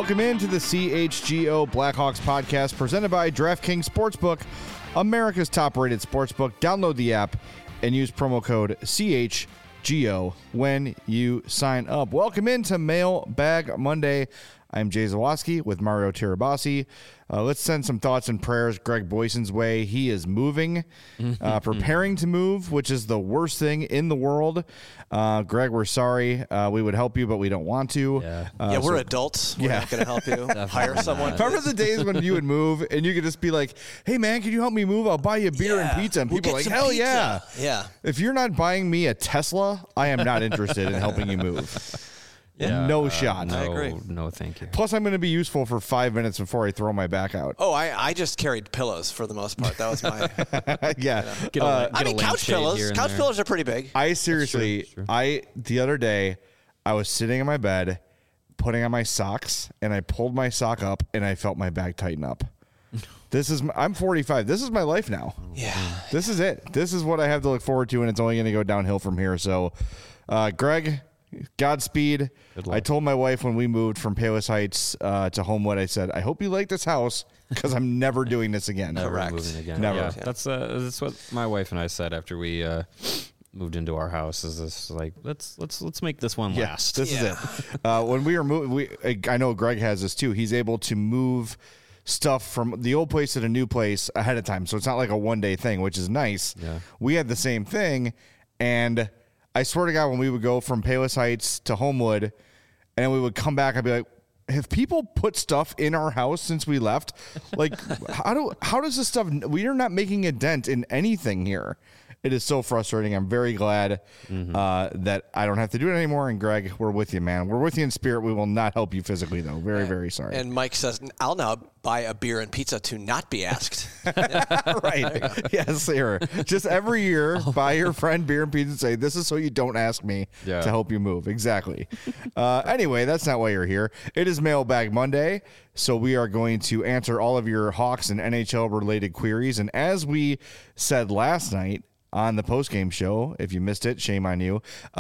Welcome into the CHGO Blackhawks podcast presented by DraftKings Sportsbook, America's top-rated sportsbook. Download the app and use promo code CHGO when you sign up. Welcome into Mailbag Monday. I'm Jay Zawaski with Mario Tirabassi. Let's send some thoughts and prayers Greg Boyson's way. He is moving, preparing to move, which is the worst thing in the world. Greg, we're sorry. We would help you, but we don't want to. Yeah, we're adults. We're not going to help you. Hire someone. Remember the days when you would move and you could just be like, hey, man, can you help me move? I'll buy you a beer and pizza. And people are like, hell pizza. Yeah. If you're not buying me a Tesla, I am not interested in helping you move. Yeah, no shot. I agree. No, thank you. Plus, I'm going to be useful for 5 minutes before I throw my back out. Oh, I just carried pillows for the most part. That was my. Yeah. I mean, couch pillows. Couch pillows are pretty big. I seriously, the other day, I was sitting in my bed, putting on my socks, and I pulled my sock up, and I felt my back tighten up. I'm 45. This is my life now. Yeah. This is it. This is what I have to look forward to, and it's only going to go downhill from here. So, Greg, Godspeed. I told my wife when we moved from Palos Heights to Homewood, I said, I hope you like this house because I'm never doing this again. Never moving again. Never. Yeah, that's what my wife and I said after we moved into our house. Is this like let's make this one last? This is it. When we were moving, I know Greg has this too. He's able to move stuff from the old place to the new place ahead of time, so it's not like a one-day thing, which is nice. Yeah. We had the same thing, and I swear to God, when we would go from Palos Heights to Homewood and we would come back, I'd be like, have people put stuff in our house since we left? Like, how does this stuff, we are not making a dent in anything here. It is so frustrating. I'm very glad that I don't have to do it anymore. And Greg, we're with you, man. We're with you in spirit. We will not help you physically, though. Very, very sorry. And Mike says, I'll now buy a beer and pizza to not be asked. Right. Yes, sir. Just every year, buy your friend beer and pizza and say, this is so you don't ask me to help you move. Exactly. Anyway, that's not why you're here. It is Mailbag Monday, so we are going to answer all of your Hawks and NHL-related queries. And as we said last night on the postgame show, if you missed it, shame on you,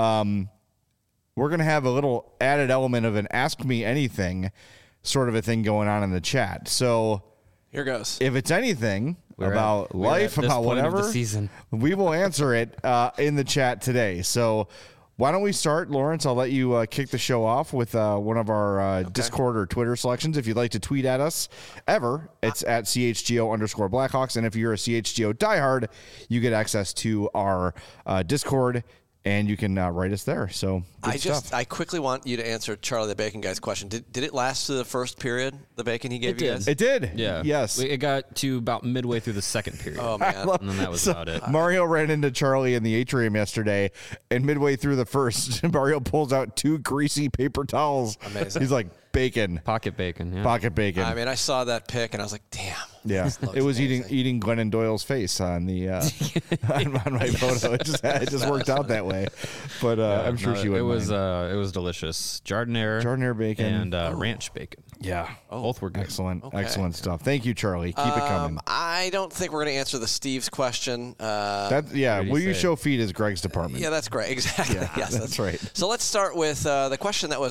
we're going to have a little added element of an Ask Me Anything sort of a thing going on in the chat. So here goes. If it's anything about life, about whatever, we will answer it in the chat today. So why don't we start, Lawrence? I'll let you kick the show off with one of our Discord or Twitter selections. If you'd like to tweet at us ever, it's at CHGO_Blackhawks. And if you're a CHGO diehard, you get access to our Discord, and you can write us there. So I quickly want you to answer Charlie the Bacon Guy's question. Did it last to the first period, the bacon he gave you guys? It did. Yeah. Yes. It got to about midway through the second period. Oh, man. And then that was about it. Mario ran into Charlie in the atrium yesterday, and midway through the first, Mario pulls out 2 greasy paper towels. Amazing. He's like, bacon. Pocket bacon, yeah. Pocket bacon. I mean, I saw that pic, and I was like, damn. Yeah, it was eating Glennon Doyle's face on the on my photo. It just worked out that way, but I'm sure she would. It was delicious. Jardiniere bacon and ranch bacon. Yeah, both were good. Excellent stuff. Thank you, Charlie. Keep it coming. I don't think we're going to answer the Steve's question. Will you show feed is Greg's department. Yeah, that's great. Exactly. Yeah, yes, that's right. So let's start with the question that was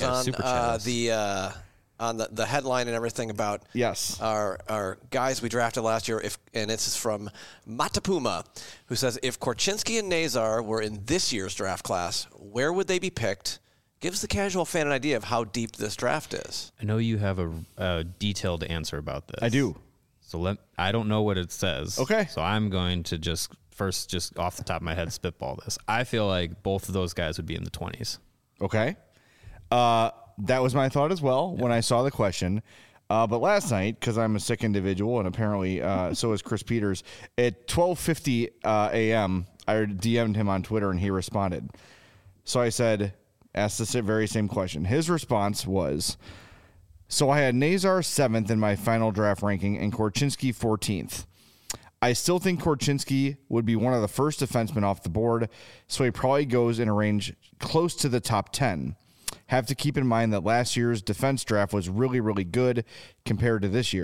on the headline and everything about our guys we drafted last year. And this is from Matapuma, who says, if Korchinski and Nazar were in this year's draft class, where would they be picked? Gives the casual fan an idea of how deep this draft is. I know you have a detailed answer about this. I do. So I don't know what it says. Okay. So I'm going to just off the top of my head spitball this. I feel like both of those guys would be in the 20s. Okay. That was my thought as well when I saw the question. But last night, because I'm a sick individual, and apparently so is Chris Peters, at 12:50 a.m., I DM'd him on Twitter, and he responded. So I asked the very same question. His response was, so I had Nazar 7th in my final draft ranking and Korchinski 14th. I still think Korchinski would be one of the first defensemen off the board, so he probably goes in a range close to the top 10. Have to keep in mind that last year's defense draft was really, really good compared to this year.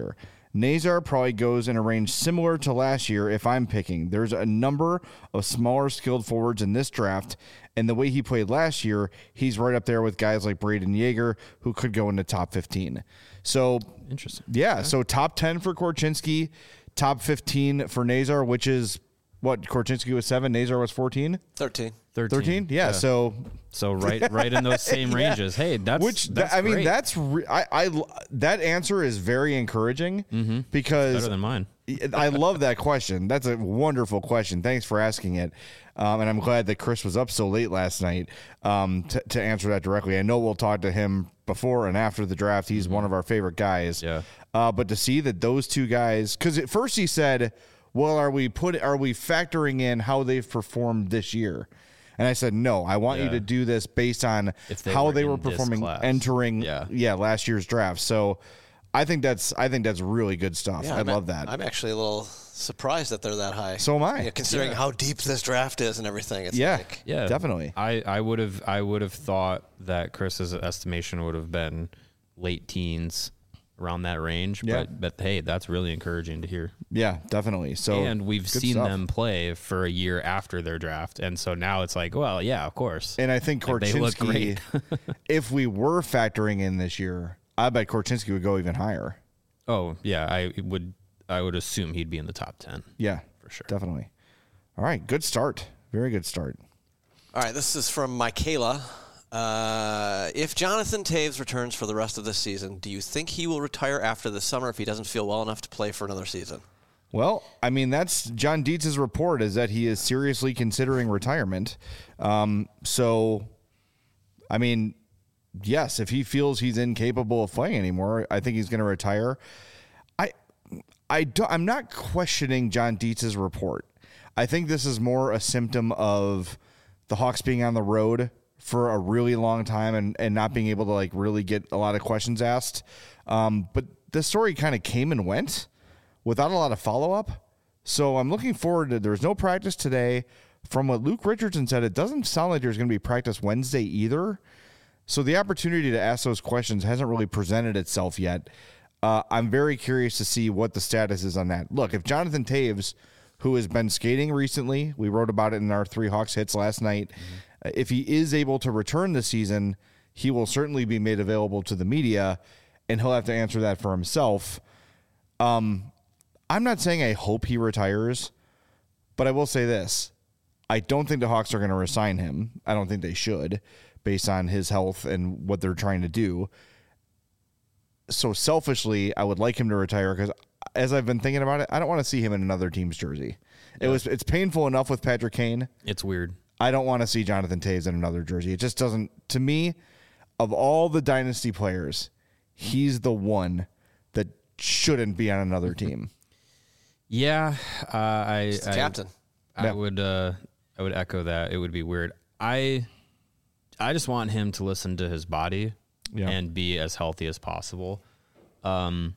Nazar probably goes in a range similar to last year if I'm picking. There's a number of smaller skilled forwards in this draft, and the way he played last year, he's right up there with guys like Braden Yeager, who could go into top 15. So, interesting. Yeah, so top 10 for Korchinski, top 15 for Nazar, which is what? Korchinski was 7, Nazar was 14? 13. 13? Yeah, so right in those same ranges. Hey, that's mean, great. that answer is very encouraging because better than mine. I love that question. That's a wonderful question. Thanks for asking it. And I'm glad that Chris was up so late last night to answer that directly. I know we'll talk to him before and after the draft. He's one of our favorite guys. Yeah. But to see that those two guys, because at first he said, well, are we factoring in how they've performed this year? And I said, no, I want you to do this based on how they were performing entering last year's draft. So I think that's really good stuff. I love that. I'm actually a little surprised that they're that high. So am I. Considering how deep this draft is and everything. It's definitely. I would have thought that Chris's estimation would have been late teens, around that range. Yeah. But hey, that's really encouraging to hear. Yeah, definitely. So and we've seen them play for a year after their draft, and so now it's like, well, yeah, of course. And I think Korchinski, if we were factoring in this year, I bet Korchinski would go even higher. Oh yeah, I would assume he'd be in the top 10. Yeah, for sure, definitely. All right, good start. Very good start. All right, this is from Michaela. If Jonathan Toews returns for the rest of the season, do you think he will retire after the summer if he doesn't feel well enough to play for another season? Well, I mean, that's John Dietz's report, is that he is seriously considering retirement. So, I mean, yes, if he feels he's incapable of playing anymore, I think he's going to retire. I'm not questioning John Dietz's report. I think this is more a symptom of the Hawks being on the road for a really long time and not being able to like really get a lot of questions asked. But the story kind of came and went without a lot of follow-up. So I'm looking forward to, there's no practice today. From what Luke Richardson said, it doesn't sound like there's going to be practice Wednesday either. So the opportunity to ask those questions hasn't really presented itself yet. I'm very curious to see what the status is on that. Look, if Jonathan Toews, who has been skating recently, we wrote about it in our 3 Hawks hits last night, if he is able to return this season, he will certainly be made available to the media, and he'll have to answer that for himself. I'm not saying I hope he retires, but I will say this. I don't think the Hawks are going to resign him. I don't think they should, based on his health and what they're trying to do. So selfishly, I would like him to retire because as I've been thinking about it, I don't want to see him in another team's jersey. Yeah. It's painful enough with Patrick Kane. It's weird. I don't want to see Jonathan Toews in another jersey. It just doesn't, to me, of all the dynasty players, he's the one that shouldn't be on another team. Yeah, He's the captain. I would echo that. It would be weird. I just want him to listen to his body and be as healthy as possible. To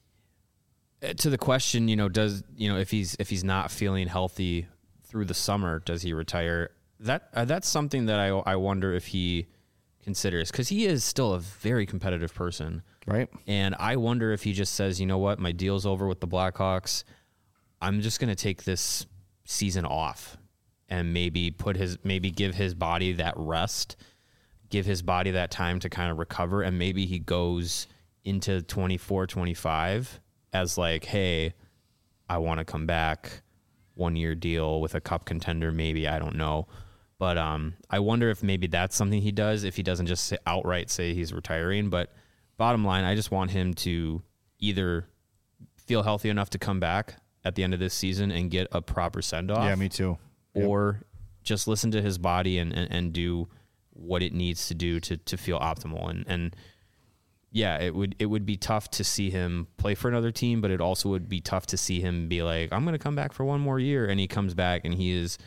the question, if he's not feeling healthy through the summer, does he retire? That's something that I wonder if he considers, because he is still a very competitive person, right? And I wonder if he just says, you know what, my deal's over with the Blackhawks. I'm just going to take this season off and maybe give his body that rest, give his body that time to kind of recover, and maybe he goes into 24, 25 as like, hey, I want to come back, 1-year deal with a cup contender, maybe, I don't know. But I wonder if maybe that's something he does, if he doesn't just outright say he's retiring. But bottom line, I just want him to either feel healthy enough to come back at the end of this season and get a proper send-off. Yeah, me too. Or just listen to his body and do what it needs to do to feel optimal. And yeah, it would be tough to see him play for another team, but it also would be tough to see him be like, I'm going to come back for 1 more year. And he comes back and he is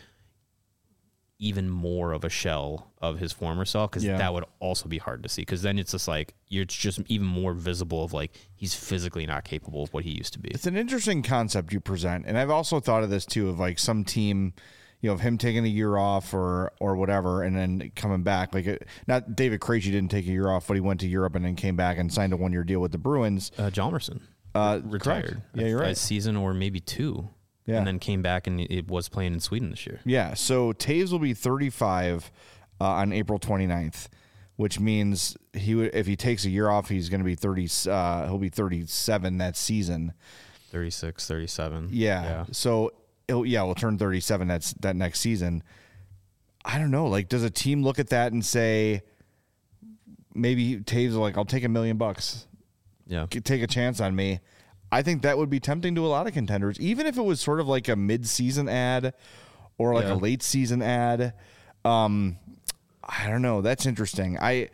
even more of a shell of his former self, because that would also be hard to see, because then it's just like it's just even more visible of like he's physically not capable of what he used to be. It's an interesting concept you present, and I've also thought of this too, of like some team, of him taking a year off or whatever and then coming back. Like not David Krejci didn't take a year off, but he went to Europe and then came back and signed a 1-year deal with the Bruins. Hjalmarsson. retired. Correct. Yeah, you're right. A season or maybe 2. Yeah. And then came back and it was playing in Sweden this year. Yeah, so Toews will be 35 on April 29th, which means if he takes a year off, he's going to be 30. He'll be 37 that season. 36, 37. Yeah. So we'll turn 37 that next season. I don't know. Like, does a team look at that and say, maybe Toews like, I'll take $1 million. Yeah. Take a chance on me. I think that would be tempting to a lot of contenders, even if it was sort of like a mid-season ad or like a late season ad. I don't know. That's interesting. I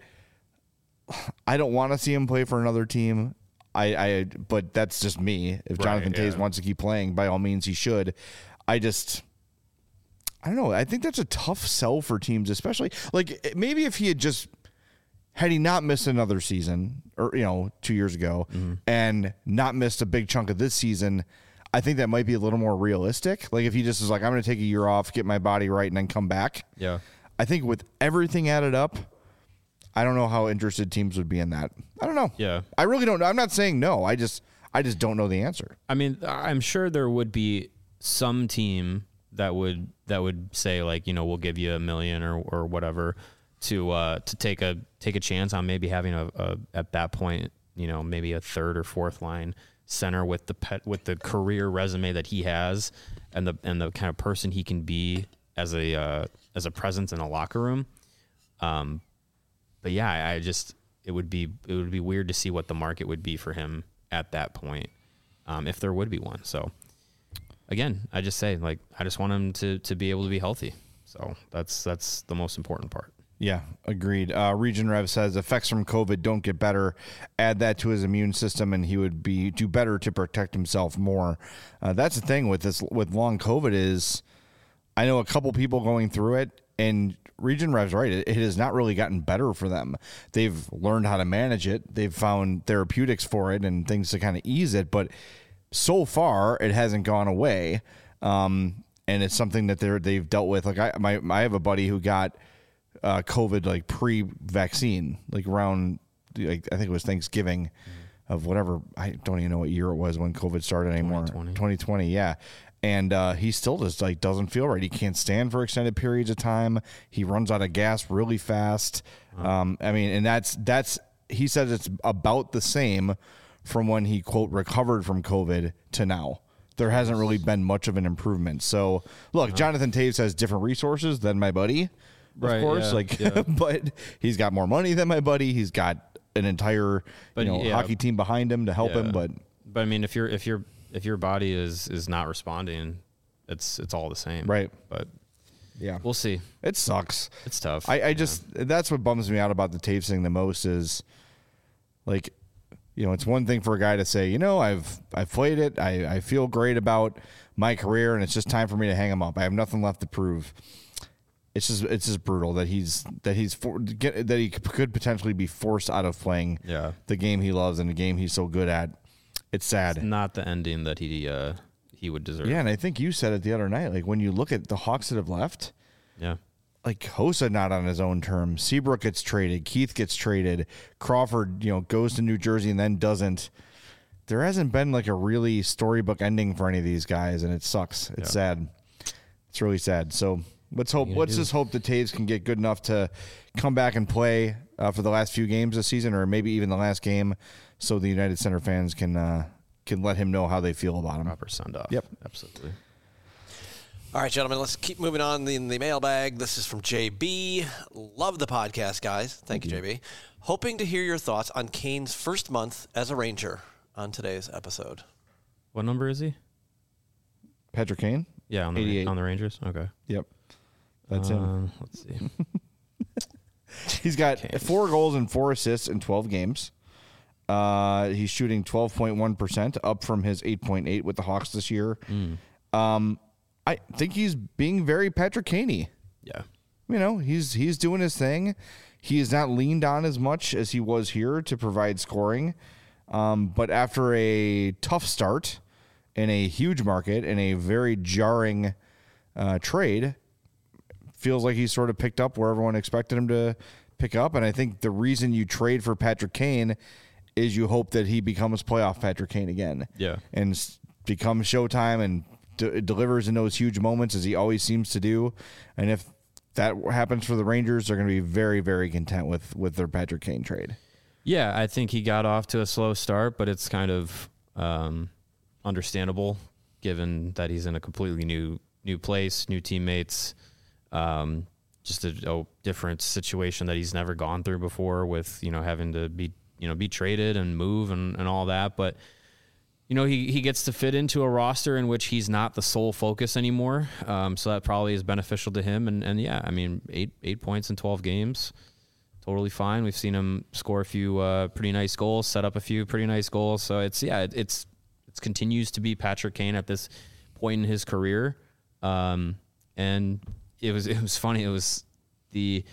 don't want to see him play for another team. But that's just me. If Jonathan Toews wants to keep playing, by all means, he should. I don't know. I think that's a tough sell for teams, especially like maybe if he had he not missed another season or 2 years ago and not missed a big chunk of this season, I think that might be a little more realistic. Like if he just is like, I'm going to take a year off, get my body right, and then come back. Yeah. I think with everything added up, I don't know how interested teams would be in that. I don't know. Yeah. I really don't know. I'm not saying no. I just don't know the answer. I mean, I'm sure there would be some team that would say like, we'll give you $1 million or whatever to take a chance on maybe having a at that point, maybe a third or fourth line center with the career resume that he has and the kind of person he can be as a presence in a locker room. But yeah, it would be weird to see what the market would be for him at that point, if there would be one. So again, I just say like I just want him to be able to be healthy. So that's the most important part. Yeah, agreed. Region Rev says effects from COVID don't get better. Add that to his immune system, and he would do better to protect himself more. That's the thing with long COVID is, I know a couple people going through it, and Region Rev's right. It has not really gotten better for them. They've learned how to manage it. They've found therapeutics for it and things to kind of ease it, but so far it hasn't gone away. And it's something that they've dealt with. Like I have a buddy who got COVID like pre-vaccine, like around I think it was Thanksgiving of whatever. I don't even know what year it was when COVID started anymore. 2020, yeah. And he still just like doesn't feel right. He can't stand for extended periods of time. He runs out of gas really fast. I mean, and that's he says it's about the same from when he quote recovered from COVID to now. There hasn't really been much of an improvement. So look, Jonathan Toews has different resources than my buddy. Of course, but he's got more money than my buddy. He's got an entire hockey team behind him to help him. But I mean, if your body is not responding, it's all the same, right? But yeah, we'll see. It sucks. It's tough. I just that's what bums me out about the Toews thing the most is like, it's one thing for a guy to say, I've played it. I feel great about my career, and it's just time for me to hang him up. I have nothing left to prove. It's just brutal that he could potentially be forced out of playing the game he loves and the game he's so good at. It's sad. It's not the ending that he would deserve. Yeah, and I think you said it the other night. Like when you look at the Hawks that have left, like Hossa not on his own terms. Seabrook gets traded. Keith gets traded. Crawford, goes to New Jersey and then doesn't. There hasn't been like a really storybook ending for any of these guys, and it sucks. It's sad. It's really sad. So. Let's just hope the Toews can get good enough to come back and play for the last few games this season, or maybe even the last game, so the United Center fans can let him know how they feel about him. Proper send off. Yep, absolutely. All right, gentlemen, let's keep moving on in the mailbag. This is from JB. Love the podcast, guys. Thank you, JB. Hoping to hear your thoughts on Kane's first month as a Ranger on today's episode. What number is he? Patrick Kane? Yeah, on the Rangers. Okay. Yep. That's him. Let's see. He's got 4 goals and 4 assists in 12 games. He's shooting 12.1%, up from his 8.8 with the Hawks this year. I think he's being very Patrick Kane-y. Yeah. He's doing his thing. He is not leaned on as much as he was here to provide scoring. But after a tough start in a huge market, in a very jarring trade, feels like he's sort of picked up where everyone expected him to pick up. And I think the reason you trade for Patrick Kane is you hope that he becomes playoff Patrick Kane again. Yeah. And becomes Showtime and delivers in those huge moments as he always seems to do. And if that happens for the Rangers, they're going to be very, very content with their Patrick Kane trade. Yeah, I think he got off to a slow start, but it's kind of understandable given that he's in a completely new place, new teammates, just a different situation that he's never gone through before with, having to be traded and move and all that. But, he gets to fit into a roster in which he's not the sole focus anymore. So that probably is beneficial to him. And yeah, I mean, 8 points in 12 games, totally fine. We've seen him score a few pretty nice goals, set up a few pretty nice goals. So it continues to be Patrick Kane at this point in his career. And it was funny. It was the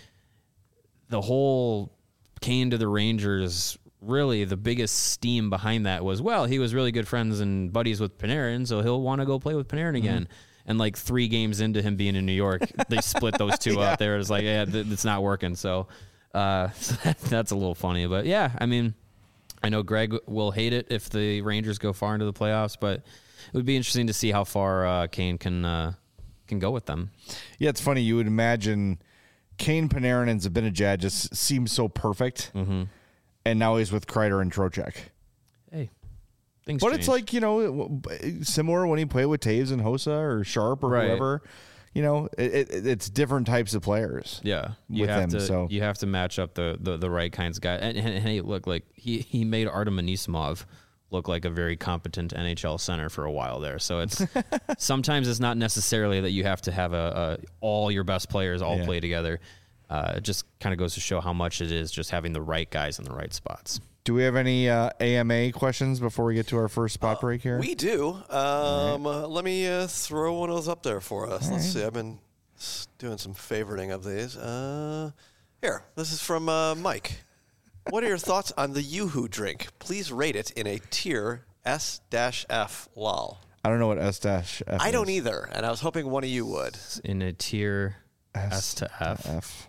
whole Kane to the Rangers. Really, the biggest steam behind that was, well, he was really good friends and buddies with Panarin, so he'll want to go play with Panarin again. And like 3 games into him being in New York, they split those two up there. It's like, it's not working. So, that's a little funny. But yeah, I mean, I know Greg will hate it if the Rangers go far into the playoffs, but it would be interesting to see how far Kane can go with them. Yeah, it's funny. You would imagine Kane, Panarin, and Zibanejad just seem so perfect. Mm-hmm. And now he's with Kreider and Trocheck. Hey, things But change. it's like, similar when he played with Taves and Hossa or Sharp or whoever. It's different types of players. Yeah, you have to match up the right kinds of guys. And hey, look, like he made Artem Anisimov look like a very competent NHL center for a while there. So it's sometimes it's not necessarily that you have to have all your best players all play together. It just kind of goes to show how much it is just having the right guys in the right spots. Do we have any AMA questions before we get to our first spot break here? We do. Let me throw one of those up there for us. Let's see. I've been doing some favoriting of these. Here, this is from Mike. What are your thoughts on the Yoo-Hoo drink? Please rate it in a tier S-F, lol. I don't know what S-F is. I don't either, and I was hoping one of you would. In a tier S to F.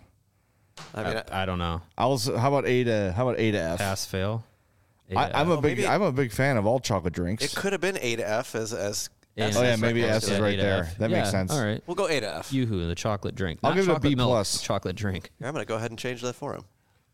I don't know. How about A to F? Pass fail. I'm a big fan of all chocolate drinks. It could have been A to F as S. Oh yeah, maybe S is right there. That makes sense. All right, we'll go A to F. Yoo-Hoo, the chocolate drink. I'll give it a B plus. Chocolate drink. Here, I'm gonna go ahead and change that for him.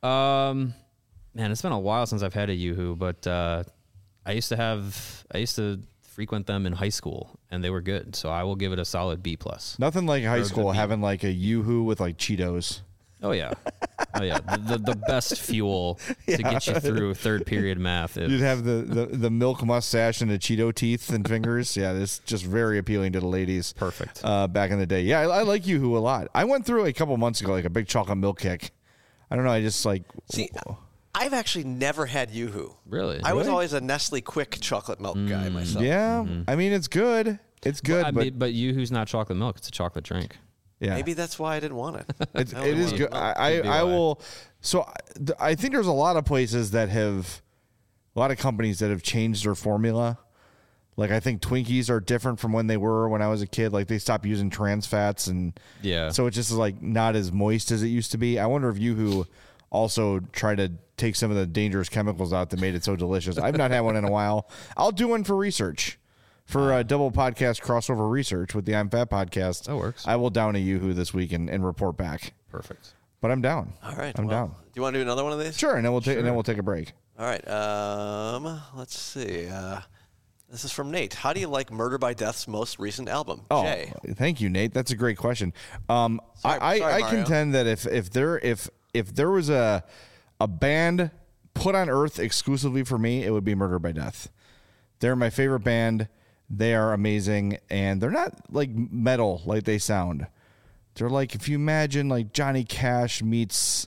Man, it's been a while since I've had a Yoo-Hoo, but I used to frequent them in high school, and they were good. So I will give it a solid B plus. Nothing like high school having like a Yoo-Hoo with like Cheetos. Oh yeah, the best fuel to get you through third period math. You'd have the milk mustache and the Cheeto teeth and fingers. Yeah, it's just very appealing to the ladies. Perfect. Back in the day, yeah, I like Yoo-Hoo a lot. I went through a couple months ago like a big chocolate milk kick. I don't know. I just like I've actually never had Yoo-Hoo. Really? I was always a Nestle Quick chocolate milk guy myself. Yeah, I mean it's good. It's good, but Yoo-Hoo's not chocolate milk. It's a chocolate drink. Yeah. Maybe that's why I didn't want it. It is good. I will. So I think there's a lot of places that have, a lot of companies that have changed their formula. Like I think Twinkies are different from when they were when I was a kid. Like they stopped using trans fats and so it just is like not as moist as it used to be. I wonder if Yoo-Hoo also try to take some of the dangerous chemicals out that made it so delicious. I've not had one in a while. I'll do one for research. For a double podcast crossover research with the I'm Fat podcast. That works. I will down a Yoo-Hoo this week and report back. Perfect. But I'm down. All right. I'm down. Do you want to do another one of these? Sure, and then we'll take a break. All right. Let's see. This is from Nate. How do you like Murder by Death's most recent album? Oh, Jay. Thank you, Nate. That's a great question. I contend that if there was a band put on Earth exclusively for me, it would be Murder by Death. They're my favorite band. They are amazing, and they're not like metal like they sound. They're like, if you imagine like Johnny Cash meets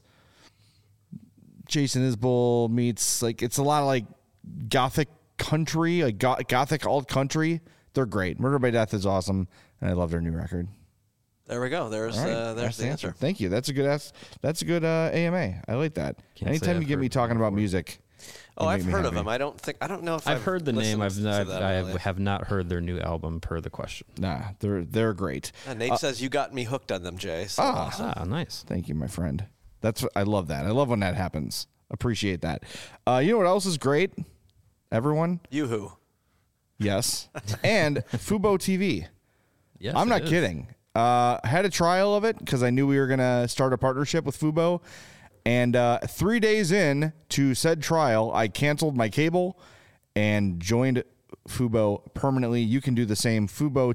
Jason Isbell meets, like, it's a lot of like gothic country, like gothic alt country. They're great. Murder by Death is awesome, and I love their new record. There we go. There's the answer. Thank you. That's a good AMA. I like that. Anytime you get me talking about music. Oh, I've heard of them. I don't know if I've heard the name. I have not heard their new album per the question. Nah, they're great. Nate says you got me hooked on them, Jay. So awesome. Nice. Thank you, my friend. I love that. I love when that happens. Appreciate that. You know what else is great? Everyone? Yoo-hoo. Yes. And Fubo TV. Yes, I'm not kidding. Had a trial of it because I knew we were going to start a partnership with Fubo. And 3 days in to said trial, I canceled my cable and joined Fubo permanently. You can do the same,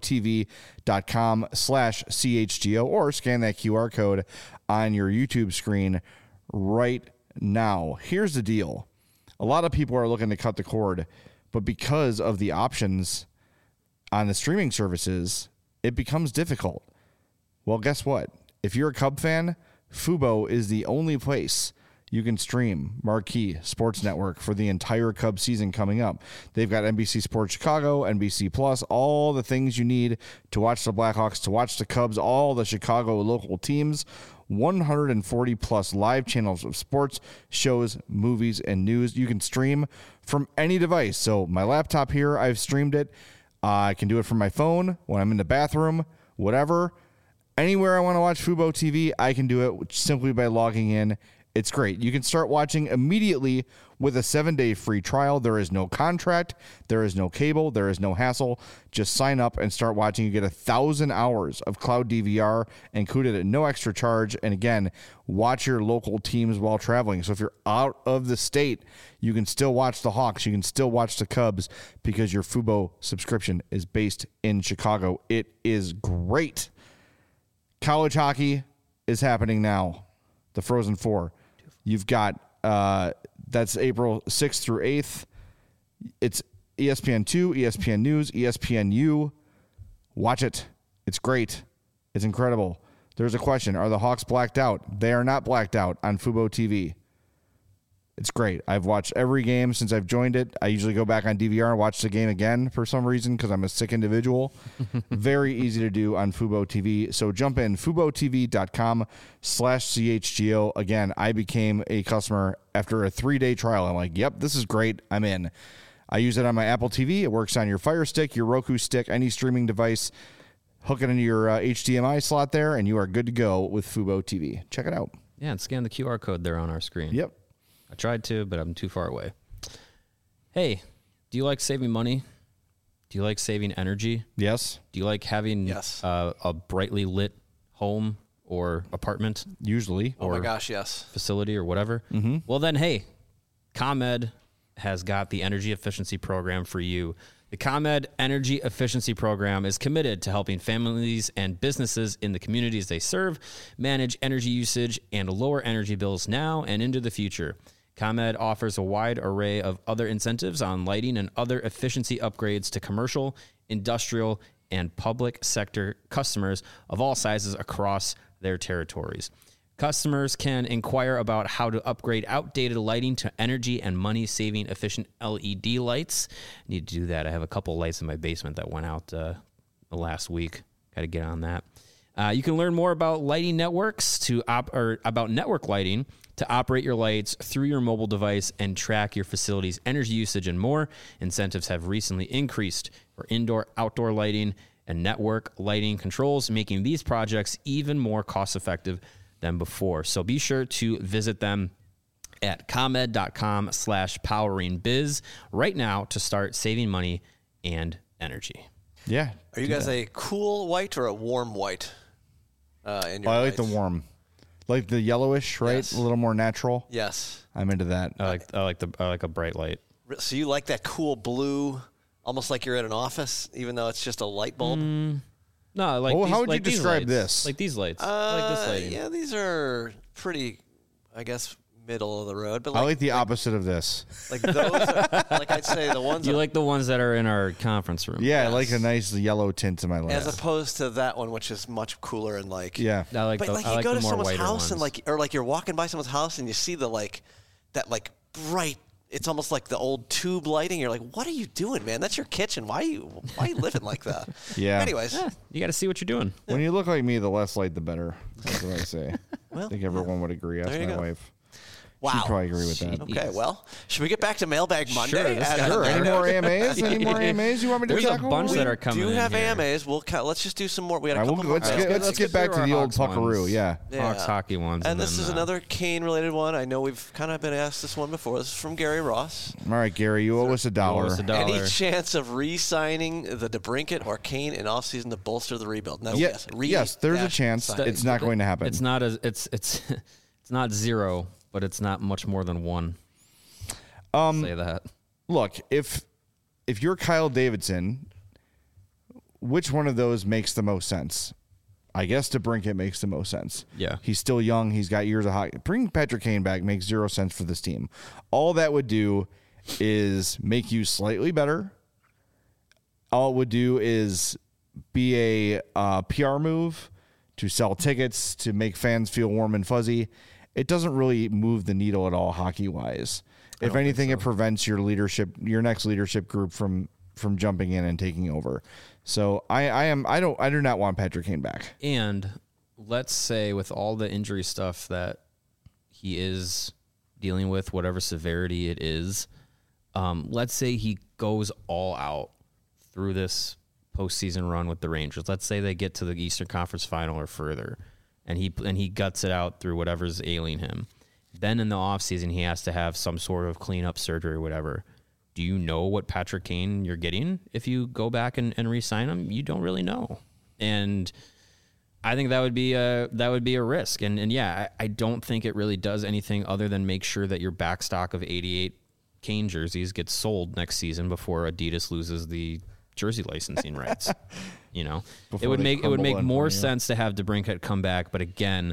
FuboTV.com/CHGO, or scan that QR code on your YouTube screen right now. Here's the deal. A lot of people are looking to cut the cord, but because of the options on the streaming services, it becomes difficult. Well, guess what? If you're a Cub fan, Fubo is the only place you can stream Marquee Sports Network for the entire Cubs season coming up. They've got NBC Sports Chicago, NBC Plus, all the things you need to watch the Blackhawks, to watch the Cubs, all the Chicago local teams, 140 plus live channels of sports, shows, movies, and news. You can stream from any device. So my laptop here, I've streamed it. I can do it from my phone when I'm in the bathroom, whatever. Anywhere I want to watch Fubo TV, I can do it simply by logging in. It's great. You can start watching immediately with a 7-day free trial. There is no contract. There is no cable. There is no hassle. Just sign up and start watching. You get 1,000 hours of cloud DVR included at no extra charge. And again, watch your local teams while traveling. So if you're out of the state, you can still watch the Hawks. You can still watch the Cubs because your Fubo subscription is based in Chicago. It is great. College hockey is happening now. The Frozen Four. You've got, that's April 6th through 8th. It's ESPN2, ESPN News, ESPNU. Watch it. It's great. It's incredible. There's a question. Are the Hawks blacked out? They are not blacked out on Fubo TV. It's great. I've watched every game since I've joined it. I usually go back on DVR and watch the game again for some reason because I'm a sick individual. Very easy to do on Fubo TV. So jump in, FuboTV.com/CHGO. Again, I became a customer after a 3-day trial. I'm like, yep, this is great. I'm in. I use it on my Apple TV. It works on your Fire Stick, your Roku stick, any streaming device. Hook it into your HDMI slot there, and you are good to go with Fubo TV. Check it out. Yeah, and scan the QR code there on our screen. Yep. I tried to, but I'm too far away. Hey, do you like saving money? Do you like saving energy? Yes. Do you like having a brightly lit home or apartment? Usually. Oh my gosh, yes. Facility or whatever? Mm-hmm. Well then, hey, ComEd has got the energy efficiency program for you. The ComEd Energy Efficiency Program is committed to helping families and businesses in the communities they serve manage energy usage and lower energy bills now and into the future. ComEd offers a wide array of other incentives on lighting and other efficiency upgrades to commercial, industrial, and public sector customers of all sizes across their territories. Customers can inquire about how to upgrade outdated lighting to energy and money-saving efficient LED lights. I need to do that. I have a couple lights in my basement that went out the last week. Got to get on that. You can learn more about lighting networks about network lighting to operate your lights through your mobile device and track your facility's energy usage and more. Incentives have recently increased for indoor-outdoor lighting and network lighting controls, making these projects even more cost-effective than before. So be sure to visit them at comed.com/poweringbiz right now to start saving money and energy. Yeah. Are you guys a cool white or a warm white? I like the warm. Like the yellowish, right? Yes. A little more natural. Yes. I'm into that. I like a bright light. So you like that cool blue, almost like you're at an office, even though it's just a light bulb? No, like how would like you describe lights. this? Like these lights. I like this lighting. Yeah, these are pretty, I guess, middle of the road. But I like the opposite of this. Like those, like I'd say the ones. You like the ones that are in our conference room? Yeah, I like a nice yellow tint to my lights. As opposed to that one, which is much cooler and like. Yeah. I like but the, like I you like go the to more someone's whiter house ones. and like you're walking by someone's house and you see the that bright. It's almost like the old tube lighting. You're like, what are you doing, man? That's your kitchen. Why are you living like that? Yeah. Anyways, you got to see what you're doing. When you look like me, the less light, the better. That's what I say. Well, I think everyone would agree. Ask there you my go. wife. Wow. She'd probably agree with that. Okay, well, should we get back to Mailbag Monday? Sure. Any more AMAs? Any more AMAs you want me to There's tackle? a bunch that are coming. We do have in AMAs. Let's just do some more. We had a couple more. Let's get back to the old Puckaroo. Yeah. Hawks hockey ones. And this is another Kane-related one. I know we've kind of been asked this one before. This is from Gary Ross. All right, Gary, you owe us $1. Any chance of re-signing the DeBrincat or Kane in offseason to bolster the rebuild? No. Yes, there's a chance. It's not going to happen. It's not it's not 0, but it's not much more than 1. Say that. Look, if you're Kyle Davidson, which one of those makes the most sense? I guess DeBrincat makes the most sense. Yeah. He's still young. He's got years of hockey. Bring Patrick Kane back makes 0 sense for this team. All that would do is make you slightly better. All it would do is be a PR move to sell tickets, to make fans feel warm and fuzzy. It doesn't really move the needle at all hockey-wise. If anything, it prevents your next leadership group from jumping in and taking over. So I do not want Patrick Kane back. And let's say with all the injury stuff that he is dealing with, whatever severity it is, let's say he goes all out through this postseason run with the Rangers. Let's say they get to the Eastern Conference Final or further, and he guts it out through whatever's ailing him. Then in the offseason, he has to have some sort of cleanup surgery or whatever. Do you know what Patrick Kane you're getting if you go back and re-sign him? You don't really know. And I think that would be a risk. And yeah, I don't think it really does anything other than make sure that your back stock of 88 Kane jerseys gets sold next season before Adidas loses the jersey licensing rights. You know, it would make more sense to have DeBrincat come back, but again,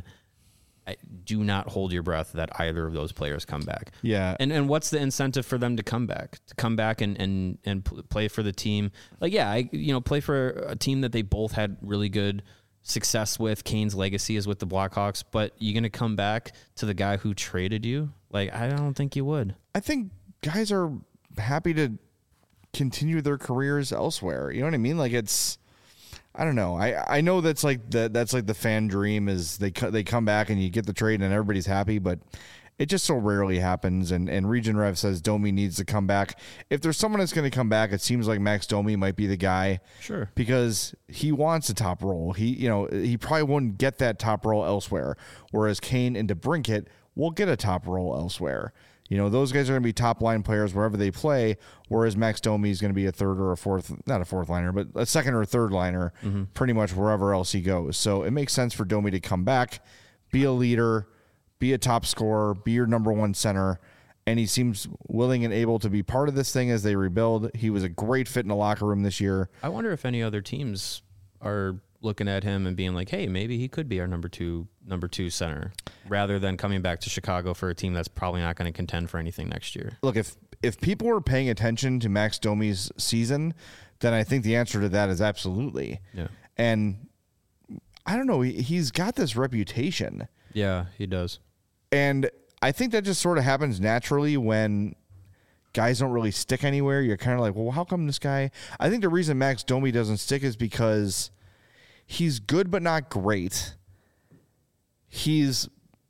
do not hold your breath that either of those players come back. Yeah. And what's the incentive for them to come back? To come back and play for the team? Like, yeah, play for a team that they both had really good success with. Kane's legacy is with the Blackhawks, but you're going to come back to the guy who traded you? Like, I don't think you would. I think guys are happy to continue their careers elsewhere. You know what I mean? Like, it's, I don't know. I know that's like the fan dream is they come back and you get the trade and everybody's happy, but it just so rarely happens. And Region Rev says Domi needs to come back. If there's someone that's going to come back, it seems like Max Domi might be the guy. Sure. Because he wants a top role. He probably wouldn't get that top role elsewhere. Whereas Kane and DeBrincat will get a top role elsewhere. Those guys are going to be top line players wherever they play, whereas Max Domi is going to be a third or a fourth, not a fourth liner, but a second or third liner, pretty much wherever else he goes. So it makes sense for Domi to come back, be a leader, be a top scorer, be your number one center. And he seems willing and able to be part of this thing as they rebuild. He was a great fit in the locker room this year. I wonder if any other teams are looking at him and being like, hey, maybe he could be our number two center, rather than coming back to Chicago for a team that's probably not going to contend for anything next year. Look, if people were paying attention to Max Domi's season, then I think the answer to that is absolutely. Yeah. And I don't know, he's got this reputation. Yeah, he does. And I think that just sort of happens naturally when guys don't really stick anywhere. You're kind of like, well, how come this guy? I think the reason Max Domi doesn't stick is because he's good but not great. He's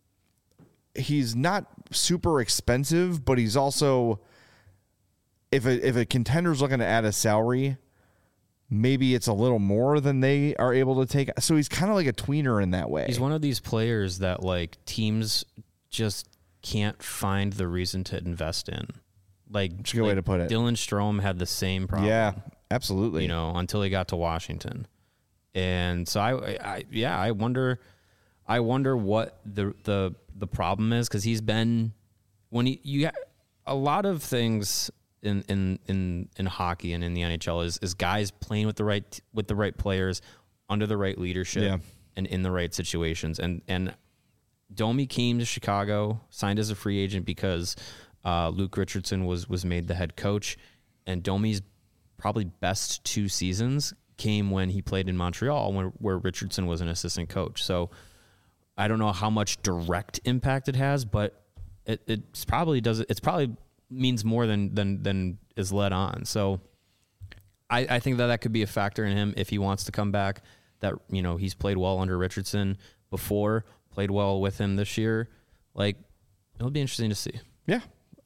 not super expensive, but he's also, if a contender's looking to add a salary, maybe it's a little more than they are able to take. So he's kind of like a tweener in that way. He's one of these players that like teams just can't find the reason to invest in. Like, that's a good way to put it. Dylan Strome had the same problem. Yeah, absolutely. Until he got to Washington. And so I wonder what the problem is, because he's been, when you got a lot of things in hockey and in the NHL is guys playing with the right players under the right leadership and in the right situations. And Domi came to Chicago, signed as a free agent because Luke Richardson was made the head coach, and Domi's probably best 2 seasons came when he played in Montreal, where Richardson was an assistant coach. So I don't know how much direct impact it has, but it's probably means more than is led on. So I think that could be a factor in him if he wants to come back. That he's played well under Richardson before, played well with him this year. Like, It'll be interesting to see. Yeah.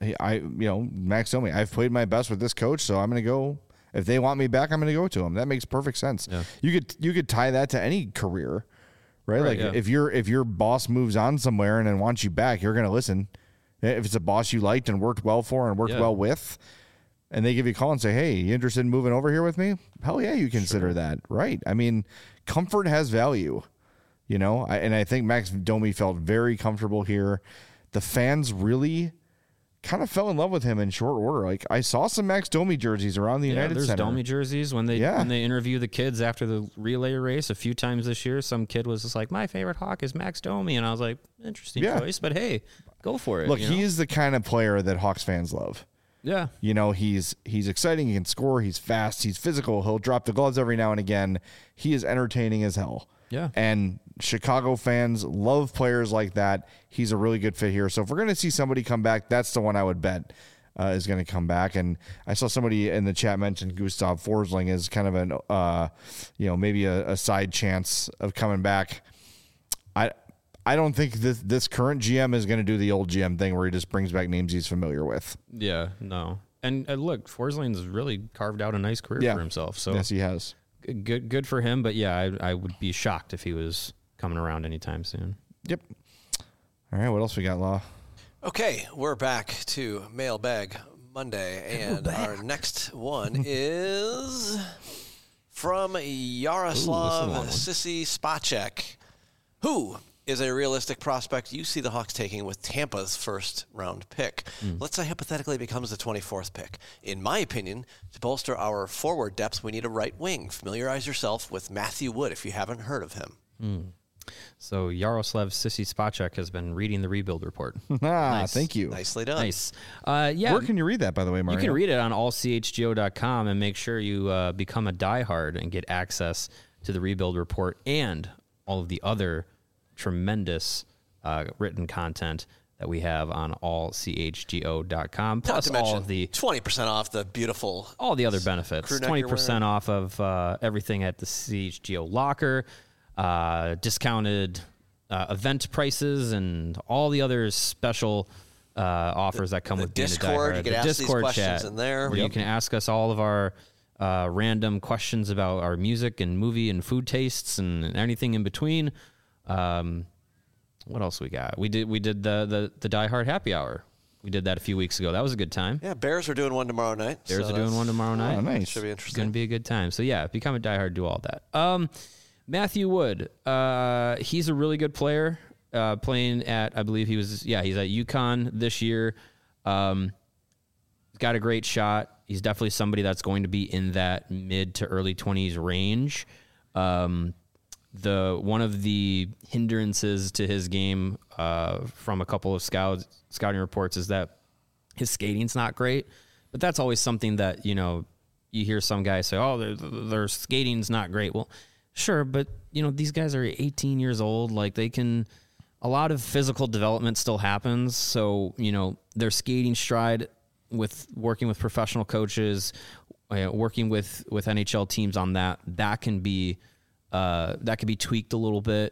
Max Domi, I've played my best with this coach, so I'm going to go. If they want me back, I'm going to go to him. That makes perfect sense. Yeah. You could tie that to any career, right? Like if your boss moves on somewhere and then wants you back, you're going to listen. If it's a boss you liked and worked well for and worked well with, and they give you a call and say, hey, you interested in moving over here with me? Hell yeah, you consider that, right? I mean, comfort has value, and I think Max Domi felt very comfortable here. The fans really kind of fell in love with him in short order. Like, I saw some Max Domi jerseys around the United Center. There's Domi jerseys when they interview the kids after the relay race a few times this year. Some kid was just like, my favorite Hawk is Max Domi, and I was like, interesting choice, but hey, go for it. Look, he is the kind of player that Hawks fans love. Yeah. He's exciting, he can score, he's fast, he's physical, he'll drop the gloves every now and again. He is entertaining as hell. Yeah. And Chicago fans love players like that. He's a really good fit here. So if we're going to see somebody come back, that's the one I would bet is going to come back. And I saw somebody in the chat mention Gustav Forsling as kind of an, maybe a side chance of coming back. I don't think this current GM is going to do the old GM thing where he just brings back names he's familiar with. Yeah, no. And look, Forsling's really carved out a nice career for himself. So yes, he has. Good for him, but yeah, I would be shocked if he was coming around anytime soon. Yep. All right, what else we got, Law? Okay, we're back to Mailbag Monday, and our next one is from Yaroslav Sissy Spacek, who is a realistic prospect you see the Hawks taking with Tampa's first-round pick. Let's say hypothetically it becomes the 24th pick. In my opinion, to bolster our forward depth, we need a right wing. Familiarize yourself with Matthew Wood if you haven't heard of him. So Yaroslav Sissy Spacek has been reading the Rebuild Report. Nice. Thank you. Nicely done. Nice. Where can you read that, by the way, Mario? You can read it on allchgo.com and make sure you become a diehard and get access to the Rebuild Report and all of the other tremendous written content that we have on allchgo.com. Plus all of the 20% off the beautiful, all the other benefits. 20% off of everything at the CHGO locker, discounted event prices, and all the other special offers that come with being Discord. a diehard. You can ask these questions in there. Where you can ask us all of our random questions about our music and movie and food tastes and anything in between. What else we got? We did the Die Hard Happy Hour. We did that a few weeks ago. That was a good time. Yeah, Bears are doing one tomorrow night. Bears are doing one tomorrow night. Oh, nice. Should be interesting. It's going to be a good time. So yeah, become a diehard, do all that. Matthew Wood, he's a really good player. Playing at, I believe he's at UConn this year. Got a great shot. He's definitely somebody that's going to be in that mid to early 20s range. One of the hindrances to his game from a couple of scouting reports is that his skating's not great, but that's always something that, you hear some guys say, oh, their skating's not great. Well, sure, but these guys are 18 years old. Like, a lot of physical development still happens. So, their skating stride with working with professional coaches, working with NHL teams on that can be tweaked a little bit.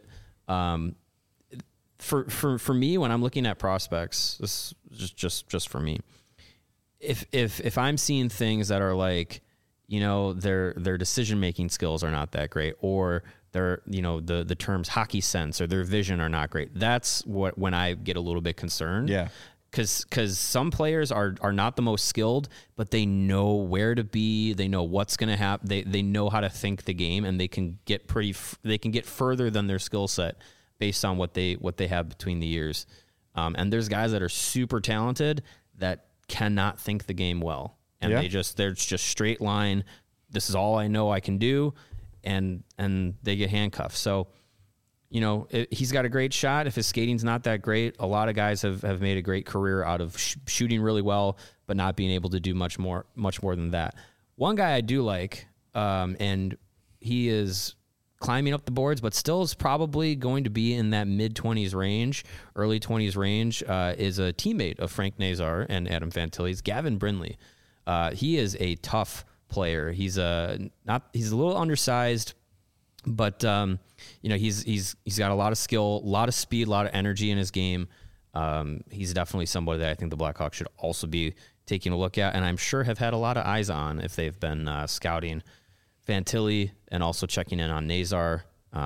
For me, when I'm looking at prospects, this is just for me. If I'm seeing things that are like, their decision-making skills are not that great, or their, the terms hockey sense or their vision are not great, that's when I get a little bit concerned. Yeah. Because some players are not the most skilled, but they know where to be. They know what's going to happen. They know how to think the game, and they can get further than their skill set based on what they have between the years. And there's guys that are super talented that cannot think the game well, and they're just straight line. This is all I know I can do, and they get handcuffed. So. He's got a great shot. If his skating's not that great, a lot of guys have made a great career out of shooting really well, but not being able to do much more than that. One guy I do like, and he is climbing up the boards, but still is probably going to be in that mid-20s range, early 20s range, is a teammate of Frank Nazar and Adam Fantilli's, Gavin Brindley. He is a tough player. He's a little undersized, but he's got a lot of skill, a lot of speed, a lot of energy in his game. He's definitely somebody that I think the Blackhawks should also be taking a look at, and I'm sure have had a lot of eyes on if they've been scouting Fantilli and also checking in on Nazar.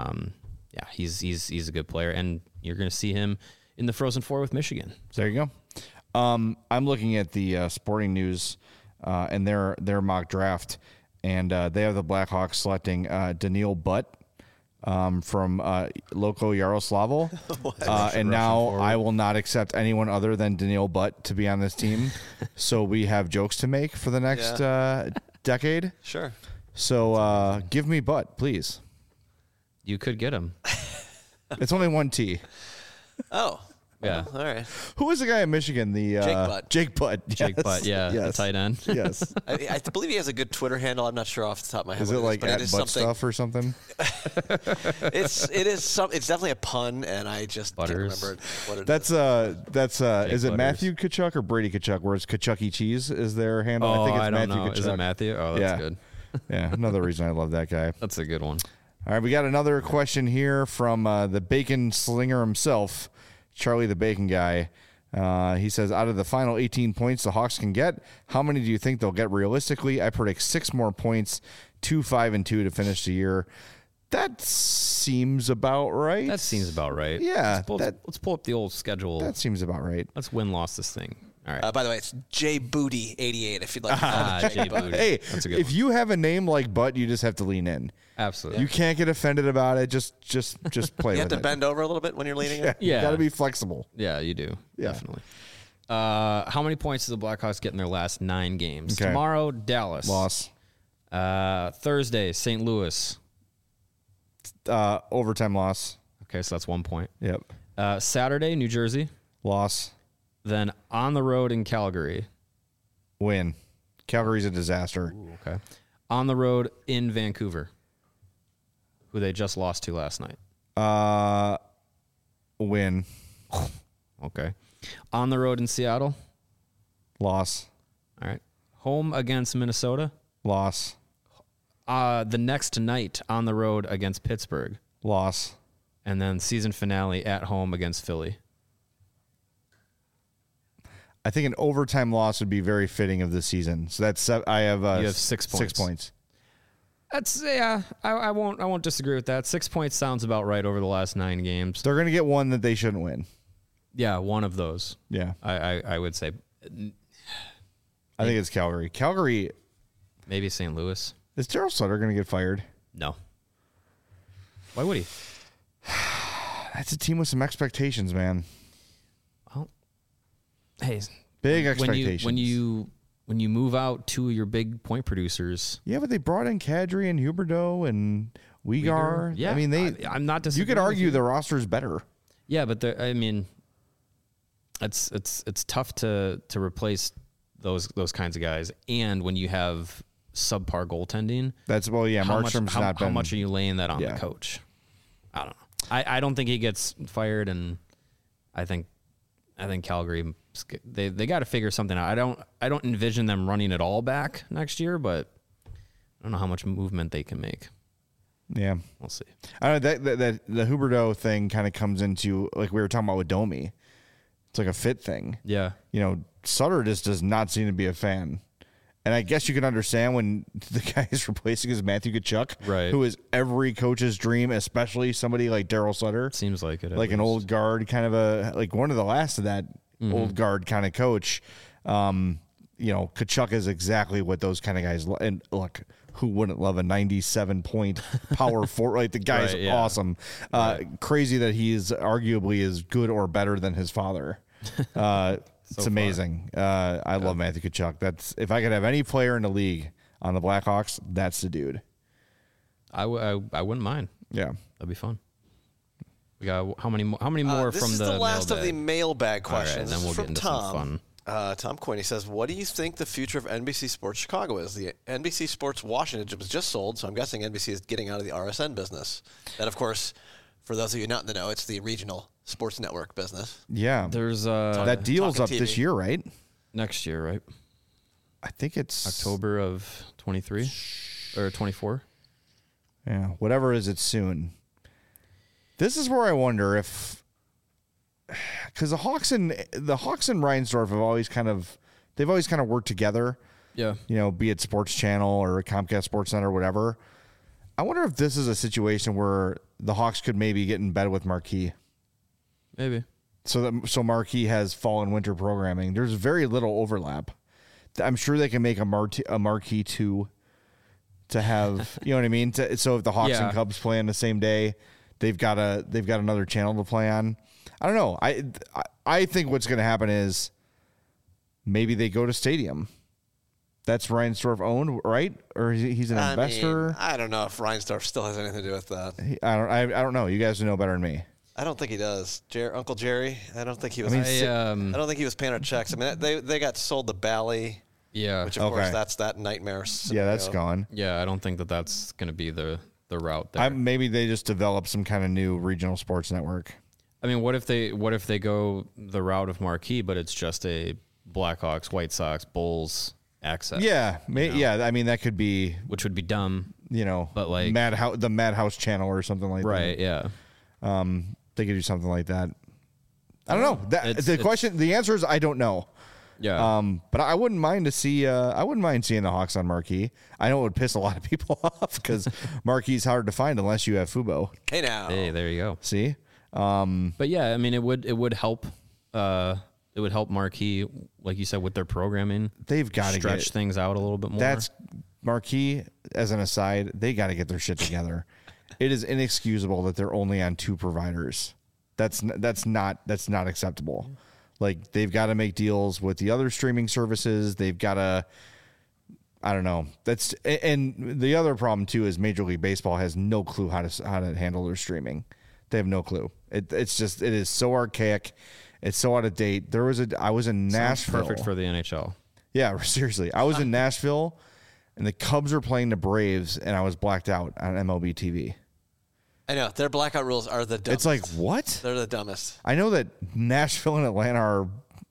He's a good player, and you're going to see him in the Frozen Four with Michigan. There you go. I'm looking at the Sporting News and their mock draft, and they have the Blackhawks selecting Daniil Butt from Loko Yaroslavl. And now I will not accept anyone other than Daniil Butt to be on this team. So we have jokes to make for the next decade. Sure. So give me Butt, please. You could get him. It's only one T. Oh. Yeah. All right. Who was the guy in Michigan? The Jake Butt. Jake Butt, yeah. Yes. The tight end. Yes. I believe he has a good Twitter handle. I'm not sure off the top of my head. Is it like at butt stuff or something? It's definitely a pun, and I just Butters. can't remember what it That's is it Butters. Matthew Tkachuk or Brady Tkachuk? Whereas Kentucky Cheese is their handle. Oh, I think it's I don't Matthew know. Tkachuk. Is it Matthew? Oh, that's Yeah. good. Yeah, another reason I love that guy. That's a good one. All right, we got another question here from the bacon slinger himself, Charlie the Bacon Guy. He says, out of the final 18 points the Hawks can get, how many do you think they'll get realistically? I predict 6 more points, 2-5-2 to finish the year. That seems about right. That seems about right. Yeah, Let's pull up the old schedule. That seems about right. Let's win-loss this thing. All right. By the way, it's J Booty 88. If you'd like to follow Jay Booty. Hey, That's a good if one. you have a name like Butt, you just have to lean in. Absolutely. You can't get offended about it. Just play You have with to it. bend over a little bit when you're leaning in. You Yeah. got to be flexible. Yeah, you do. Yeah. Definitely. How many points does the Blackhawks get in their last 9 games? Okay. Tomorrow, Dallas. Loss. Thursday, St. Louis. Overtime loss. Okay, so that's 1 point. Yep. Saturday, New Jersey. Loss. Then on the road in Calgary. Win. Calgary's a disaster. Ooh, okay. On the road in Vancouver, who they just lost to last night. Win. Okay. On the road in Seattle. Loss. All right. Home against Minnesota. Loss. The next night on the road against Pittsburgh. Loss. And then season finale at home against Philly. I think an overtime loss would be very fitting of this season. So that's I have You have 6 points. 6 points. That's I won't disagree with that. 6 points sounds about right over the last 9 games. They're going to get one that they shouldn't win. Yeah, one of those. Yeah. I would say I think it's Calgary. Calgary. maybe St. Louis. Is Daryl Sutter going to get fired? No. Why would he? That's a team with some expectations, man. Well, hey, Big expectations. When you move out 2 of your big point producers. Yeah, but they brought in Kadri and Huberdeau and Weegar. Yeah, I mean, I'm not disagreeing. You could argue with you. the roster is better. Yeah, but I mean, it's tough to replace those kinds of guys, and when you have subpar goaltending, Markstrom's not been. How much are you laying that on Yeah. the coach? I don't know. I don't think he gets fired, and I think Calgary they got to figure something out. I don't envision them running it all back next year, but I don't know how much movement they can make. Yeah, We'll see. I don't know that the Huberdeau thing kind of comes into like we were talking about with Domi. It's like a fit thing. Yeah. Sutter just does not seem to be a fan. And I guess you can understand when the guy is replacing is Matthew Tkachuk, Right. who is every coach's dream, especially somebody like Daryl Sutter. Seems like it. at Like an least. old guard, kind of like one of the last of that old guard kind of coach. Tkachuk is exactly what those kind of guys. And look, who wouldn't love a 97-point power forward? Like the guy's Right, yeah. awesome. Crazy that he is arguably as good or better than his father. It's amazing. I love Matthew Tkachuk. That's if I could have any player in the league on the Blackhawks, that's the dude. I wouldn't mind. Yeah. That'd be fun. We got how many more this from is the last of the mailbag? mailbag All right, questions. then This we'll is get from into Tom. some fun. Tom Quinn, he says, what do you think the future of NBC Sports Chicago is? The NBC Sports Washington was just sold, so I'm guessing NBC is getting out of the RSN business. That, of course, for those of you not in the know, it's the regional sports network business. Yeah. There's that deal's up Talking this TV. year, right? next year, right? I think it's October of 23 or 24. Yeah, whatever it is, it's soon. This is where I wonder if, because the Hawks and Reinsdorf have always kind of worked together. Yeah. Be it Sports Channel or Comcast Sports Center or whatever. I wonder if this is a situation where the Hawks could maybe get in bed with Marquee. Maybe. So Marquee has fall and winter programming. There's very little overlap. I'm sure they can make a Marquee 2 to have, you know what I mean? So if the Hawks and Cubs play on the same day, they've got another channel to play on. I don't know. I think what's going to happen is maybe they go to Stadium. That's Reinsdorf owned, right? Or he's an investor? I don't know if Reinsdorf still has anything to do with that. I don't know. You guys know better than me. I don't think he does. Uncle Jerry, I don't think he was. I don't think he was paying our checks. I mean, they got sold to Bally. Yeah. Which, of course, that's that nightmare scenario. Yeah, that's gone. Yeah, I don't think that's going to be the route there. Maybe they just develop some kind of new regional sports network. I mean, what if they go the route of Marquee, but it's just a Blackhawks, White Sox, Bulls access? Yeah. Yeah, I mean, that could be... Which would be dumb. But like... the Madhouse channel or something like that. Right, yeah. They could do something like that. I don't know. The answer is I don't know. Yeah. But I wouldn't mind seeing the Hawks on Marquee. I know it would piss a lot of people off because Marquee's hard to find unless you have Fubo. Hey now. Hey, there you go. See? But yeah, I mean, it would help. It would help Marquee, like you said, with their programming. They've got to stretch things out a little bit more. That's Marquee. As an aside, they got to get their shit together. It is inexcusable that they're only on 2 providers. That's not acceptable. Like, they've got to make deals with the other streaming services. They've got to, I don't know. And the other problem too is Major League Baseball has no clue how to handle their streaming. They have no clue. It is so archaic. It's so out of date. I was in Nashville. Sounds perfect for the NHL. Yeah, seriously. I was in Nashville, and the Cubs were playing the Braves, and I was blacked out on MLB TV. I know. Their blackout rules are the dumbest. It's like, what? They're the dumbest. I know that Nashville and Atlanta are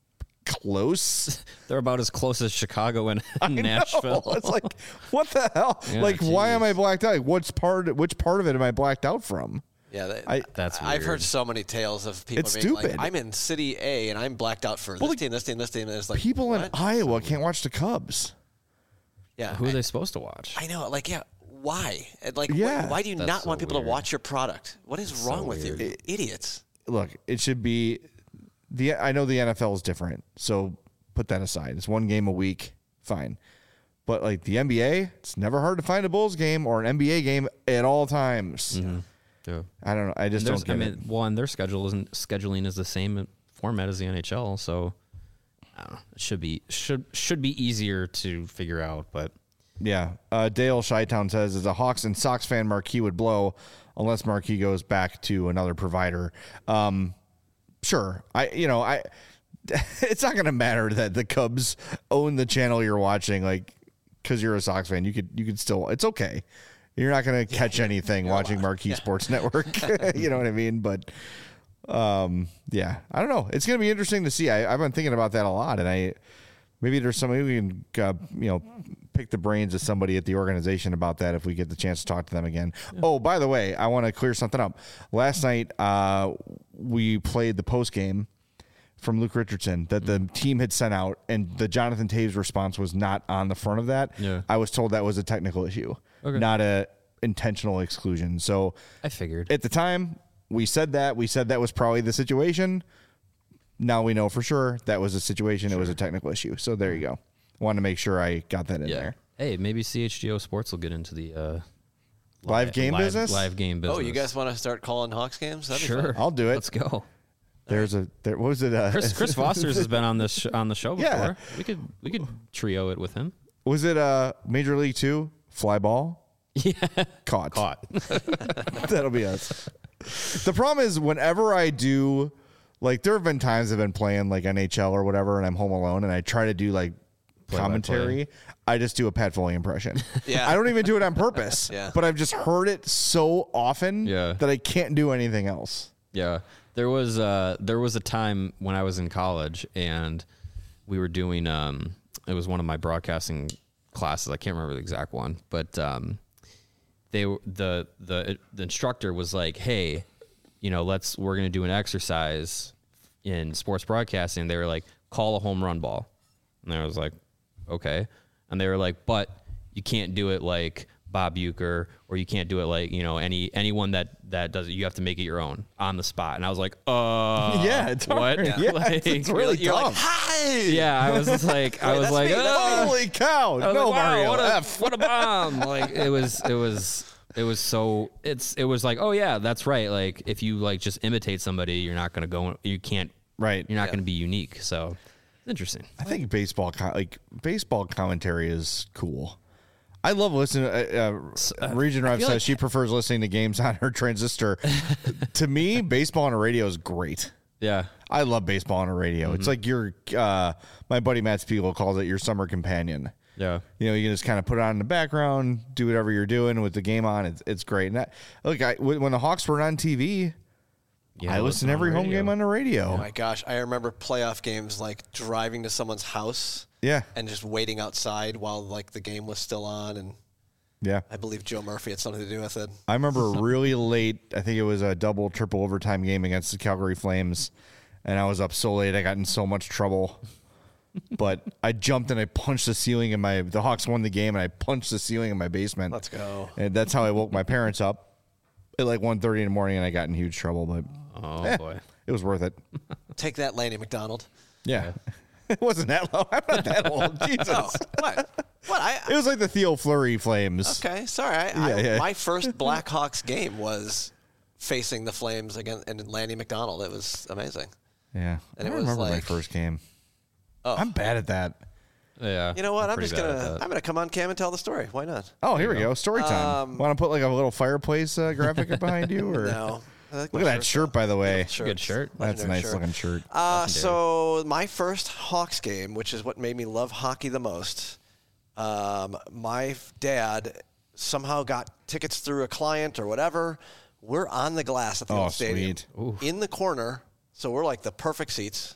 close. They're about as close as Chicago and Nashville. It's like, what the hell? Yeah, like, why am I blacked out? Which part of it am I blacked out from? Yeah, that's weird. I've heard so many tales of people it's being stupid. like, I'm in City A and I'm blacked out for this team. And it's like, people in Iowa can't watch the Cubs. Yeah. Who are they supposed to watch? I know. Like, yeah. Why? Like, yeah. Why do you not want people weird. to watch your product? What is wrong with you? Idiots. Look, it should be I know the NFL is different, so put that aside. It's 1 game a week, fine. But like the NBA, it's never hard to find a Bulls game or an NBA game at all times. Mm-hmm. Yeah. I don't know. I just don't get it. One, their scheduling is the same format as the NHL, so I don't know. It should be easier to figure out, but yeah. Dale Shytown says, as a Hawks and Sox fan, Marquee would blow unless Marquee goes back to another provider. Sure. It's not going to matter that the Cubs own the channel you're watching, like, because you're a Sox fan. You could still, it's okay. You're not going to catch anything watching Marquee Sports Network. You know what I mean? But, yeah, I don't know. It's going to be interesting to see. I've been thinking about that a lot, and maybe there's somebody we can, pick the brains of somebody at the organization about that if we get the chance to talk to them again. Yeah. Oh, by the way, I want to clear something up. Last night, we played the post game from Luke Richardson that the team had sent out, and the Jonathan Taves response was not on the front of that. Yeah. I was told that was a technical issue, not a intentional exclusion. So I figured at the time we said that was probably the situation. Now we know for sure that was a situation. Sure. It was a technical issue. So there you go. Wanted to make sure I got that in there. Hey, maybe CHGO Sports will get into the live game business. Live game business. Oh, you guys want to start calling Hawks games? That'd sure, be fun. I'll do it. Let's go. What was it? Chris Foster's has been on the show before. Yeah. We could trio it with him. Was it Major League 2 fly ball? Yeah, caught. That'll be us. The problem is whenever I do, like, there have been times I've been playing like NHL or whatever, and I'm home alone, and I try to do like commentary. I just do a Pat Foley impression. Yeah, I don't even do it on purpose. Yeah, but I've just heard it so often that I can't do anything else. Yeah, there was a time when I was in college and we were doing it was one of my broadcasting classes. I can't remember the exact one, but the instructor was like, "Hey, we're going to do an exercise in sports broadcasting. They were like, call a home run ball. And I was like, okay. And they were like, but you can't do it like Bob Uecker, or you can't do it like, anyone that does it. You have to make it your own on the spot. And I was like, yeah, it's what? Hard. Yeah, like, it's really you're dumb. like, hi. Yeah, I was just like, holy cow! No, like, wow, Mario, what a bomb! Like it was like, oh yeah, that's right. Like if you like just imitate somebody, you're not gonna go. You can't. Right. You're not gonna be unique. So it's interesting. I think baseball commentary is cool. I love listening. Region Rev says she prefers listening to games on her transistor. To me, baseball on a radio is great. Yeah. I love baseball on a radio. Mm-hmm. It's like your, my buddy Matt Spiegel calls it your summer companion. Yeah. You know, you can just kind of put it on in the background, do whatever you're doing with the game on. It's great. And when the Hawks were on TV, I listen to every home game on the radio. Oh my gosh. I remember playoff games like driving to someone's house. Yeah. And just waiting outside while like the game was still on. And yeah, I believe Joe Murphy had something to do with it. I remember really late, I think it was a double, triple overtime game against the Calgary Flames. And I was up so late, I got in so much trouble. But I jumped and I punched the ceiling in the Hawks won the game, and I punched the ceiling in my basement. Let's go. And that's how I woke my parents up at like 1:30 in the morning, and I got in huge trouble. But boy, it was worth it. Take that, Lanny McDonald. Yeah. It wasn't that low. I'm not that old. Jesus. Oh, what? It was like the Theo Fleury Flames. Okay, sorry. My first Blackhawks game was facing the Flames again, and Lanny McDonald. It was amazing. Yeah. And I it was remember like, my first game. Oh. I'm bad at that. Yeah. You know what? I'm gonna come on cam and tell the story. Why not? Oh, here we go. Story time. Want to put like a little fireplace graphic behind you, or no? Look at that shirt, by the way. Good shirt. That's a nice looking shirt. So my first Hawks game, which is what made me love hockey the most, my dad somehow got tickets through a client or whatever. We're on the glass at the old stadium, in the corner, so we're like the perfect seats.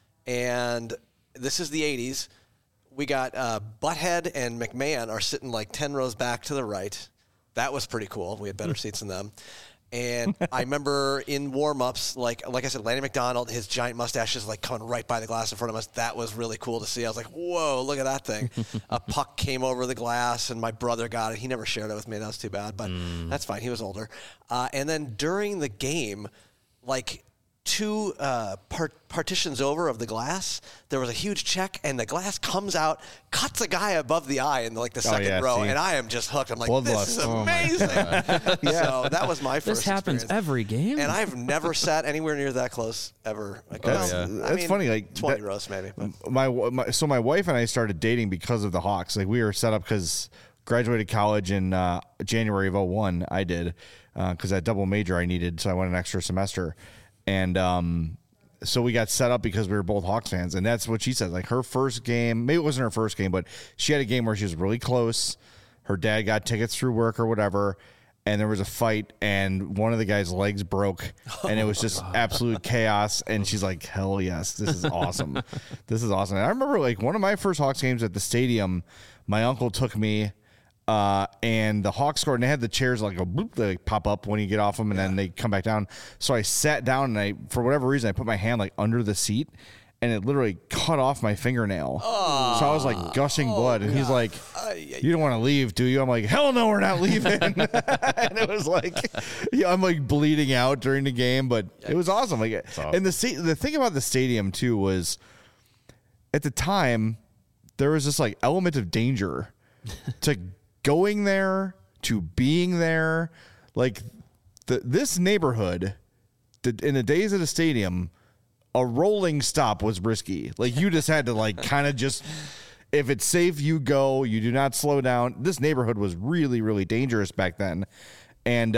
And this is the 80s. We got Butthead and McMahon are sitting like 10 rows back to the right. That was pretty cool. We had better seats than them. And I remember in warm-ups, like I said, Lanny McDonald, his giant mustache is like coming right by the glass in front of us. That was really cool to see. I was like, whoa, look at that thing. A puck came over the glass, and my brother got it. He never shared it with me. That was too bad, but that's fine. He was older. And then during the game, like two partitions over of the glass, there was a huge check, and the glass comes out, cuts a guy above the eye in like the second row, and I am just hooked. I'm like, this is amazing. So that was my first This happens experience. every game, and I've never sat anywhere near that close ever. That's funny. Like 20 rows maybe. So my wife and I started dating because of the Hawks. Like we were set up because graduated college in January of 2001. I did because that double major I needed, so I went an extra semester. And so we got set up because we were both Hawks fans. And that's what she said. Like her first game, maybe it wasn't her first game, but she had a game where she was really close. Her dad got tickets through work or whatever. And there was a fight, and one of the guy's legs broke, and it was just absolute chaos. And she's like, hell yes, this is awesome. This is awesome. And I remember like one of my first Hawks games at the stadium, my uncle took me, and the Hawks scored, and they had the chairs like they like pop up when you get off them, and then they come back down. So I sat down, and for whatever reason, I put my hand like under the seat, and it literally cut off my fingernail. So I was like gushing blood, and he's like, "You don't want to leave, do you?" I'm like, "Hell no, we're not leaving." And it was like, I'm like bleeding out during the game, but it was awesome. Like, and the thing about the stadium too was, at the time, there was this like element of danger to going there, to being there. Like this neighborhood, in the days of the stadium, a rolling stop was risky. Like you just had to like kind of just, if it's safe, you go, you do not slow down. This neighborhood was really, really dangerous back then. And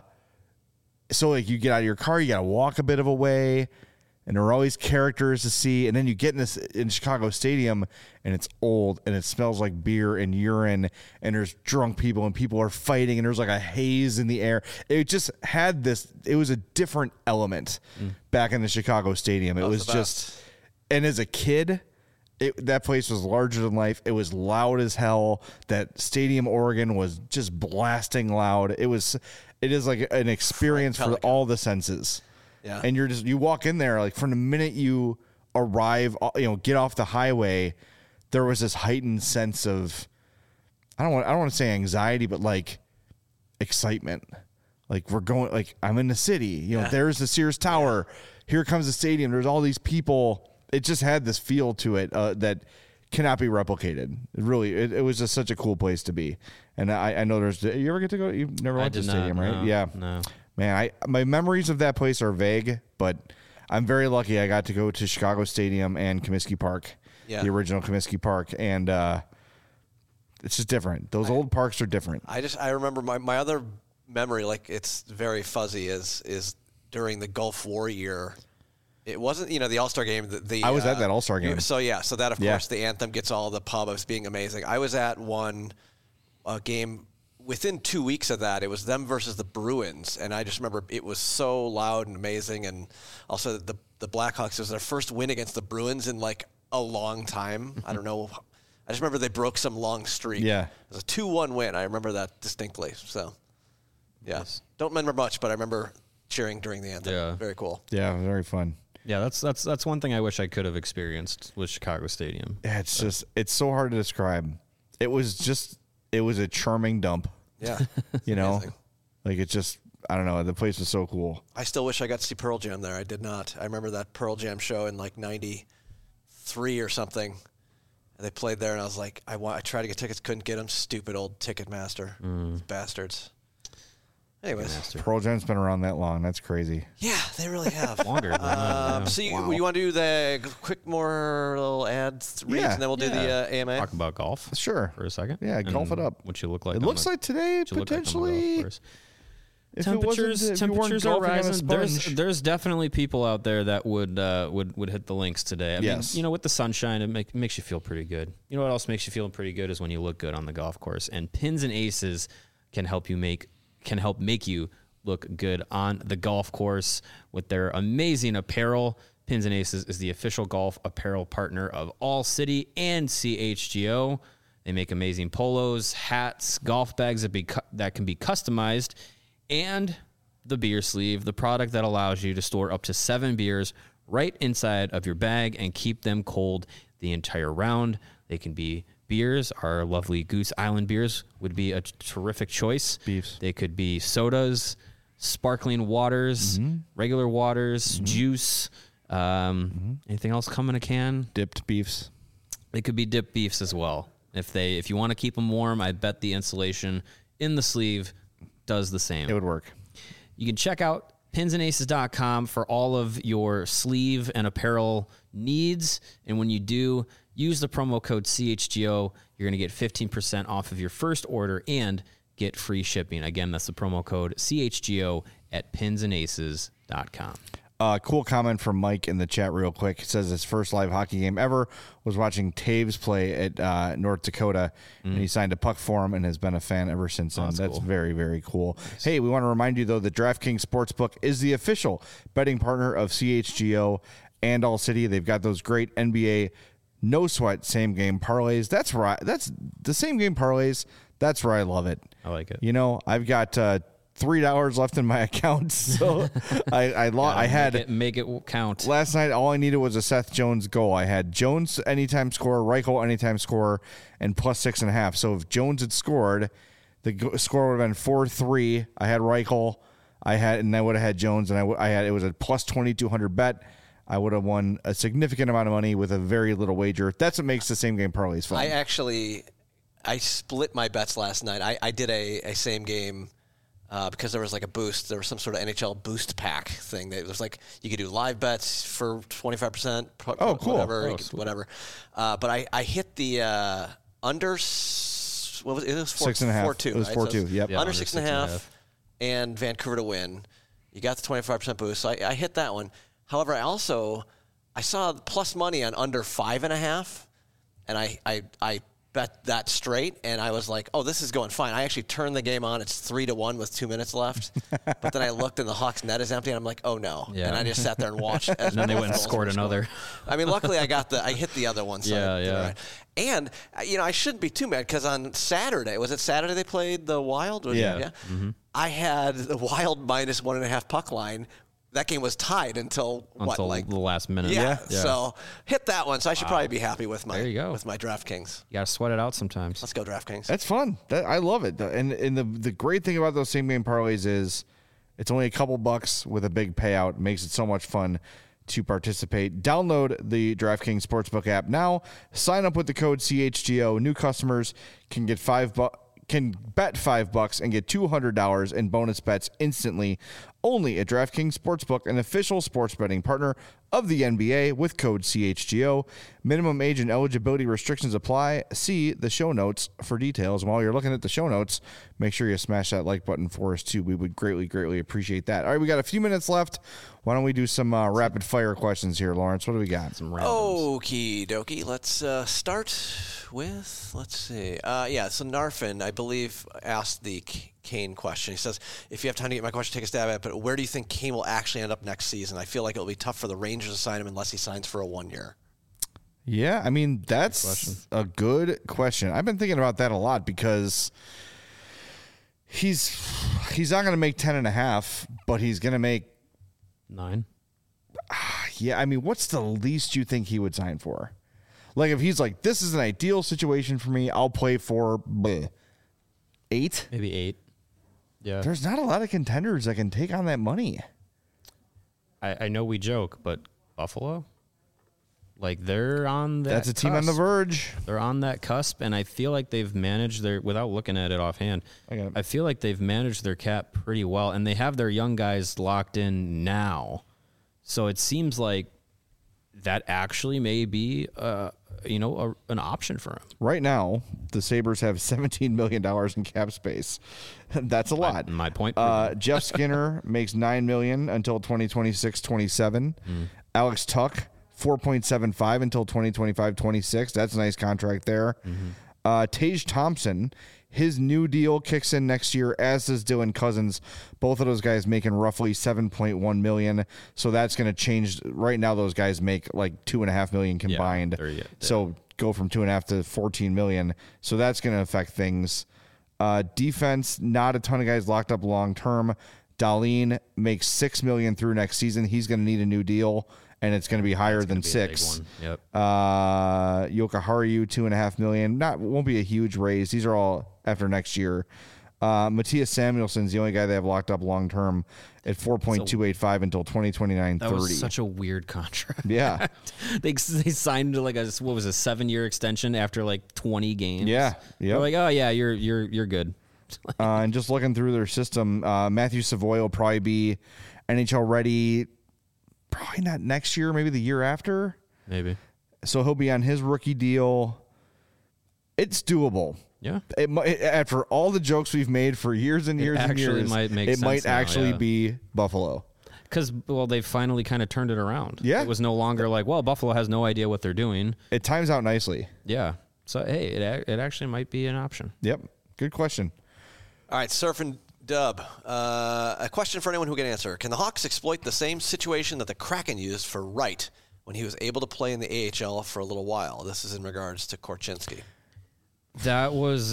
so like you get out of your car, you got to walk a bit of a way, and there are always characters to see. And then you get in Chicago Stadium, and it's old, and it smells like beer and urine, and there's drunk people, and people are fighting, and there's like a haze in the air. It just had this, it was a different element back in the Chicago Stadium. It was just, and as a kid, that place was larger than life. It was loud as hell. That Stadium Oregon was just blasting loud. It is like an experience for all the senses. Yeah. And you walk in there, like from the minute you arrive, get off the highway, there was this heightened sense of, I don't want to say anxiety, but like excitement. Like we're going, like I'm in the city, there's the Sears Tower. Here comes the stadium. There's all these people. It just had this feel to it that cannot be replicated. It was just such a cool place to be. And I know you ever get to go? You've never went to the stadium, right? No, yeah. No. Man, my memories of that place are vague, but I'm very lucky I got to go to Chicago Stadium and Comiskey Park, the original Comiskey Park. And it's just different. Those old parks are different. I remember my other memory, like it's very fuzzy, is during the Gulf War year. It wasn't, the All-Star game. I was at that All-Star game. So that, of course, the anthem gets all the pub as being amazing. I was at one game within 2 weeks of that. It was them versus the Bruins, and I just remember it was so loud and amazing. And also the Blackhawks, it was their first win against the Bruins in like a long time. I don't know. I just remember they broke some long streak. Yeah. It was a 2-1 win. I remember that distinctly. So, yeah. Nice. Don't remember much, but I remember cheering during the anthem. Yeah. Very cool. Yeah, very fun. Yeah, that's one thing I wish I could have experienced with Chicago Stadium. Yeah, it's so hard to describe. It was a charming dump. Yeah. Like it just, I don't know, the place was so cool. I still wish I got to see Pearl Jam there. I did not. I remember that Pearl Jam show in like 93 or something. And they played there and I was like, I tried to get tickets, couldn't get them. Stupid old Ticketmaster. Bastards. Anyways, Pearl Jam's been around that long. That's crazy. Yeah, they really have. Longer than that. So you want to do the quick more little ads reads, and then we'll do the AMA? Talk about golf. Sure. For a second. Yeah, golf it up. What you look like. It looks like today, potentially. Temperatures are rising. There's definitely people out there that would hit the links today. I mean, with the sunshine, it makes you feel pretty good. You know what else makes you feel pretty good is when you look good on the golf course. And Pins and Aces can help make you look good on the golf course with their amazing apparel. Pins and Aces is the official golf apparel partner of All City and CHGO. They make amazing polos, hats, golf bags that can be customized, and the beer sleeve, the product that allows you to store up to 7 beers right inside of your bag and keep them cold the entire round. They can be beers. Our lovely Goose Island beers would be a terrific choice. Beefs. They could be sodas, sparkling waters, regular waters, juice. Anything else come in a can? Dipped beefs. They could be dipped beefs as well. If you want to keep them warm, I bet the insulation in the sleeve does the same. It would work. You can check out pinsandaces.com for all of your sleeve and apparel needs. And when you do, use the promo code CHGO. You're going to get 15% off of your first order and get free shipping. Again, that's the promo code CHGO at pinsandaces.com. Cool comment from Mike in the chat real quick. It says his first live hockey game ever was watching Taves play at North Dakota, and he signed a puck for him and has been a fan ever since then. That's cool. Very, very cool. Nice. Hey, we want to remind you, though, that DraftKings Sportsbook is the official betting partner of CHGO and All City. They've got those great NBA no-sweat same-game parlays. That's right. That's the same-game parlays. That's where I love it. I like it. I've got $3 left in my account, so I had make it count. Last night, all I needed was a Seth Jones goal. I had Jones anytime scorer, Reichel anytime scorer, and plus 6.5. So if Jones had scored, the score would have been 4-3. I had Reichel, and I would have had Jones, and it was a plus 2,200 bet. I would have won a significant amount of money with a very little wager. That's what makes the same game parlays fun. I split my bets last night. I did a same game. Because there was like a boost. There was some sort of NHL boost pack thing. It was like you could do live bets for 25%. Oh, cool. Whatever. But I hit the under, what was it? It was 6.5. 4-2. It was 4-2, yep. Under 6.5 and Vancouver to win. You got the 25% boost. So I hit that one. However, I saw plus money on under 5.5, and I bet that straight, and I was like, oh, this is going fine. I actually turned the game on. It's 3-1 with 2 minutes left. But then I looked, and the Hawks' net is empty, and I'm like, oh, no. Yeah. And I just sat there and watched. And then they went and scored another. I mean, luckily, I hit the other one. So right. And, I shouldn't be too mad, because on Saturday, was it Saturday they played the Wild? Yeah. I had the Wild minus 1.5 puck line that game was tied until the last minute. Yeah. So hit that one. So I should probably be happy with my DraftKings. You got to sweat it out sometimes. Let's go DraftKings. That's fun. I love it. And the great thing about those same game parlays is it's only a couple bucks with a big payout. It makes it so much fun to participate. Download the DraftKings Sportsbook app now. Sign up with the code CHGO. New customers can get can bet $5 and get $200 in bonus bets instantly only at DraftKings Sportsbook, an official sports betting partner of the NBA with code CHGO. Minimum age and eligibility restrictions apply. See the show notes for details. While you're looking at the show notes, make sure you smash that like button for us too. We would greatly, greatly appreciate that. All right, we got a few minutes left. Why don't we do some rapid fire questions here, Lawrence? What do we got? Some randoms. Okie dokie. Let's start with, let's see. So Narfin, I believe, asked the Kane question. He says, if you have time to get my question, take a stab at it, but where do you think Kane will actually end up next season? I feel like it'll be tough for the Rangers to sign him unless he signs for a 1 year. Yeah, I mean, that's a good question. I've been thinking about that a lot because he's not going to make 10.5, but he's going to make 9. Yeah, I mean, what's the least you think he would sign for? Like, if he's like, this is an ideal situation for me, I'll play for 8? Maybe 8. Yeah. There's not a lot of contenders that can take on that money. I know we joke, but Buffalo? Like, they're on that That's a team on the verge. They're on that cusp, and I feel like they've managed without looking at it offhand, I feel like they've managed their cap pretty well, and they have their young guys locked in now. So it seems like that actually may be an option for him. Right now, the Sabres have $17 million in cap space. That's a lot. My point. Jeff Skinner makes $9 million until 2026-27. Alex Tuch, 4.75 until 2025-26. That's a nice contract there. Tage Thompson, his new deal kicks in next year, as does Dylan Cousins. Both of those guys making roughly $7.1 million. So that's going to change. Right now, those guys make like $2.5 million combined. Yeah, so go from 2.5 to 14 million. So that's going to affect things. Defense, not a ton of guys locked up long term. Dahlin makes $6 million through next season. He's going to need a new deal, and it's going to be higher than 6. Yep. Jokiharju, $2.5 million. Won't be a huge raise. These are all after next year. Matthias Samuelson's the only guy they have locked up long term at 4.285 until 2029-30. That was such a weird contract. Yeah. they signed like a 7-year extension after like 20 games. Yeah. They're like, oh yeah, you're good. And just looking through their system, Matthew Savoy will probably be NHL ready. Probably not next year, maybe the year after. Maybe. So he'll be on his rookie deal. It's doable. Yeah. After all the jokes we've made for years and years and years, it might actually be Buffalo. Because, they've finally kind of turned it around. Yeah. It was no longer like, Buffalo has no idea what they're doing. It times out nicely. Yeah. So, hey, it actually might be an option. Yep. Good question. All right, Surf and Dub. A question for anyone who can answer. Can the Hawks exploit the same situation that the Kraken used for Wright when he was able to play in the AHL for a little while? This is in regards to Korchinski. That was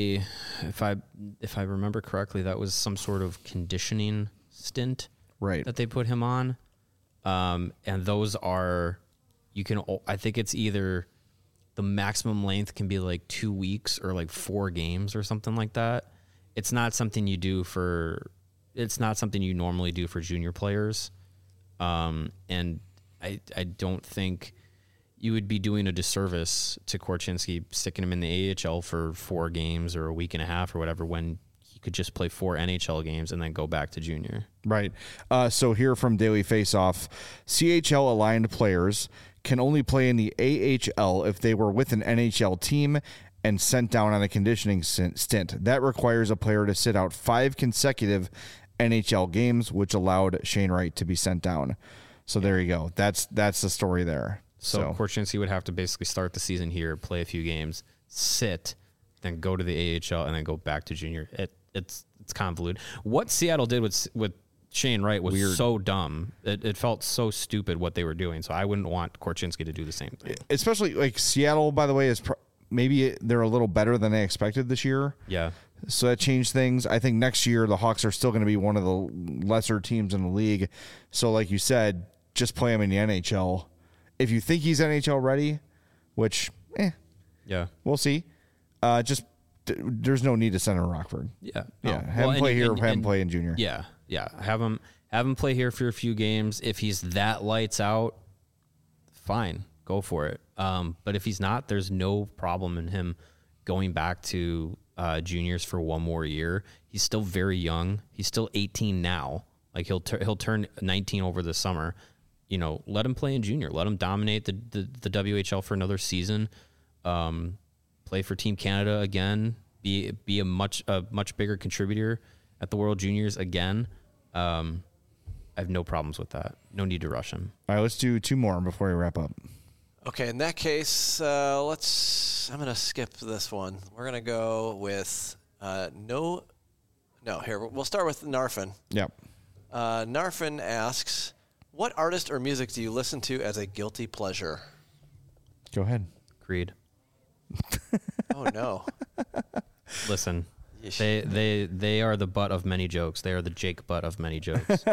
if I remember correctly, that was some sort of conditioning stint that they put him on. And those are, I think it's either the maximum length can be like 2 weeks or like 4 games or something like that. It's not something you normally do for junior players. And I don't think you would be doing a disservice to Korchinski sticking him in the AHL for 4 games or a week and a half or whatever when he could just play 4 NHL games and then go back to junior. Right. So here from Daily Faceoff, CHL aligned players can only play in the AHL if they were with an NHL team and sent down on a conditioning stint. That requires a player to sit out 5 consecutive NHL games, which allowed Shane Wright to be sent down. So there you go. That's the story there. So Korchinski would have to basically start the season here, play a few games, sit, then go to the AHL, and then go back to junior. It's convoluted. What Seattle did with Shane Wright was weird. So dumb. It felt so stupid what they were doing. So I wouldn't want Korchinski to do the same thing. Especially like Seattle, by the way, is maybe they're a little better than they expected this year. Yeah. So that changed things. I think next year the Hawks are still going to be one of the lesser teams in the league. So like you said, just play him in the NHL. If you think he's NHL ready, which, yeah, we'll see. There's no need to send him to Rockford. Yeah. Yeah. Have him play here, have him play in junior. Yeah. Yeah. Have him play here for a few games. If he's that lights out, fine. Go for it. But if he's not, there's no problem in him going back to juniors for one more year. He's still very young. He's still 18 now. Like he'll turn 19 over the summer. You know, let him play in junior. Let him dominate the WHL for another season. Play for Team Canada again. Be a much bigger contributor at the World Juniors again. I have no problems with that. No need to rush him. All right, let's do 2 more before we wrap up. Okay, in that case, I'm going to skip this one. We're going to go with here, we'll start with Narfin. Yep. Narfin asks, what artist or music do you listen to as a guilty pleasure? Go ahead. Creed. Oh, no. Listen, they are the butt of many jokes. They are the Jake butt of many jokes.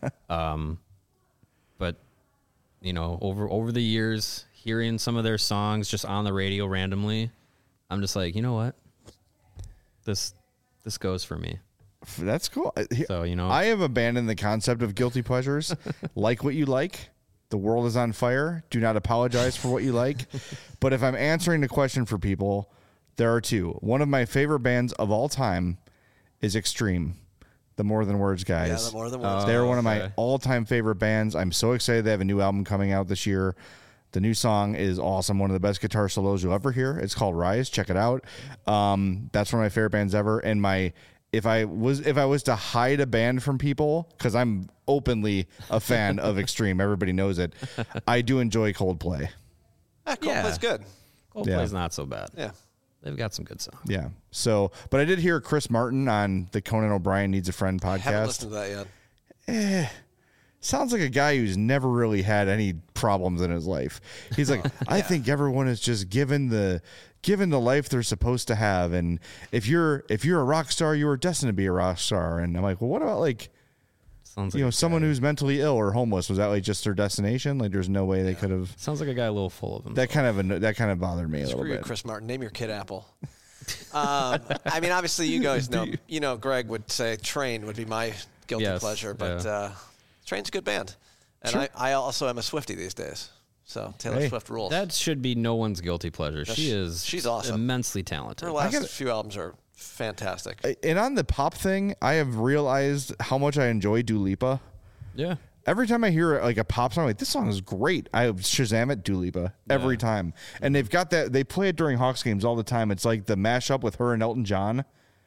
But, you know, over the years, hearing some of their songs just on the radio randomly, I'm just like, you know what? This goes for me. That's cool. So, you know, I have abandoned the concept of guilty pleasures. Like what you like. The world is on fire. Do not apologize for what you like. But if I'm answering the question for people, there are 2. One of my favorite bands of all time is Extreme. The More Than Words guys. Yeah, the More Than Words. They're one of my all-time favorite bands. I'm so excited they have a new album coming out this year. The new song is awesome. One of the best guitar solos you'll ever hear. It's called Rise. Check it out. That's one of my favorite bands ever. And if I was to hide a band from people, because I'm openly a fan of Extreme, everybody knows it. I do enjoy Coldplay. Coldplay's good. Coldplay's not so bad. Yeah. They've got some good songs. Yeah. So, but I did hear Chris Martin on the Conan O'Brien Needs a Friend podcast. I haven't listened to that yet. Sounds like a guy who's never really had any problems in his life. He's like, I think everyone is just given the life they're supposed to have, and if you're a rock star, you are destined to be a rock star. And I'm like, well, what about like, sounds like someone who's mentally ill or homeless? Was that like just their destination? Like, there's no way they could have. Sounds like a guy a little full of himself. That kind of bothered me a little bit. Chris Martin, name your kid Apple. I mean, obviously, you guys know. You know, Greg would say Train would be my guilty pleasure, but Train's a good band, and sure. I also am a Swiftie these days. So Taylor Swift rules. That should be no one's guilty pleasure. She's awesome, immensely talented. Her last few albums are fantastic. And on the pop thing, I have realized how much I enjoy Dua Lipa. Yeah. Every time I hear like a pop song, I'm like, this song is great. I Shazam it, Dua Lipa, every time. And they've got that. They play it during Hawks games all the time. It's like the mashup with her and Elton John.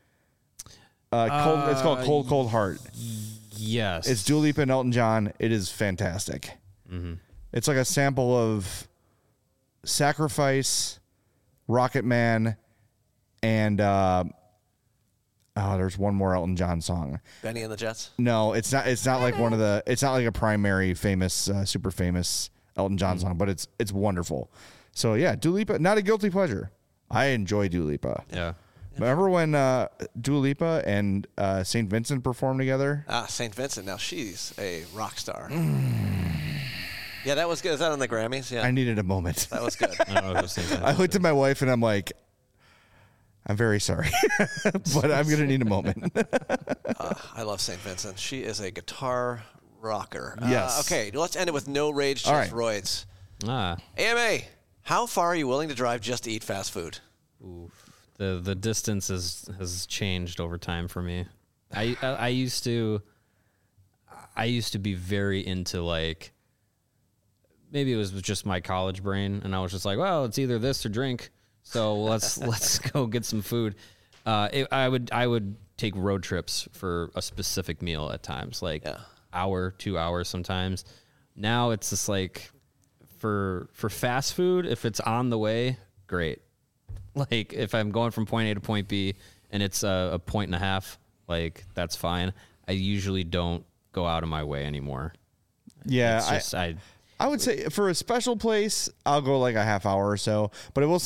It's called Cold Cold Heart. Yes. It's Dua Lipa and Elton John. It is fantastic. Mm-hmm. It's like a sample of Sacrifice, Rocket Man, and there's one more Elton John song. Benny and the Jets? No, it's not. It's not like it's not like a primary famous, super famous Elton John song, but it's wonderful. So yeah, Dua Lipa, not a guilty pleasure. I enjoy Dua Lipa. Yeah. Remember when Dua Lipa and St. Vincent performed together? St. Vincent. Now she's a rock star. Yeah, that was good. Is that on the Grammys? Yeah. I needed a moment. That was good. I looked at my wife and I'm like, I'm very sorry, but I'm going to need a moment. I love St. Vincent. She is a guitar rocker. Yes. Okay, let's end it with no rage, just roids. AMA, how far are you willing to drive just to eat fast food? Oof. The distance has changed over time for me. I used to be very into, like, maybe it was just my college brain, and I was just like, well, it's either this or drink, so let's go get some food. I would take road trips for a specific meal at times, like hour, 2 hours sometimes. Now it's just like for fast food, if it's on the way, great. Like, if I'm going from point A to point B and it's a point and a half, like, that's fine. I usually don't go out of my way anymore. Yeah, it's just, I would say for a special place, I'll go like a half hour or so. But I will say,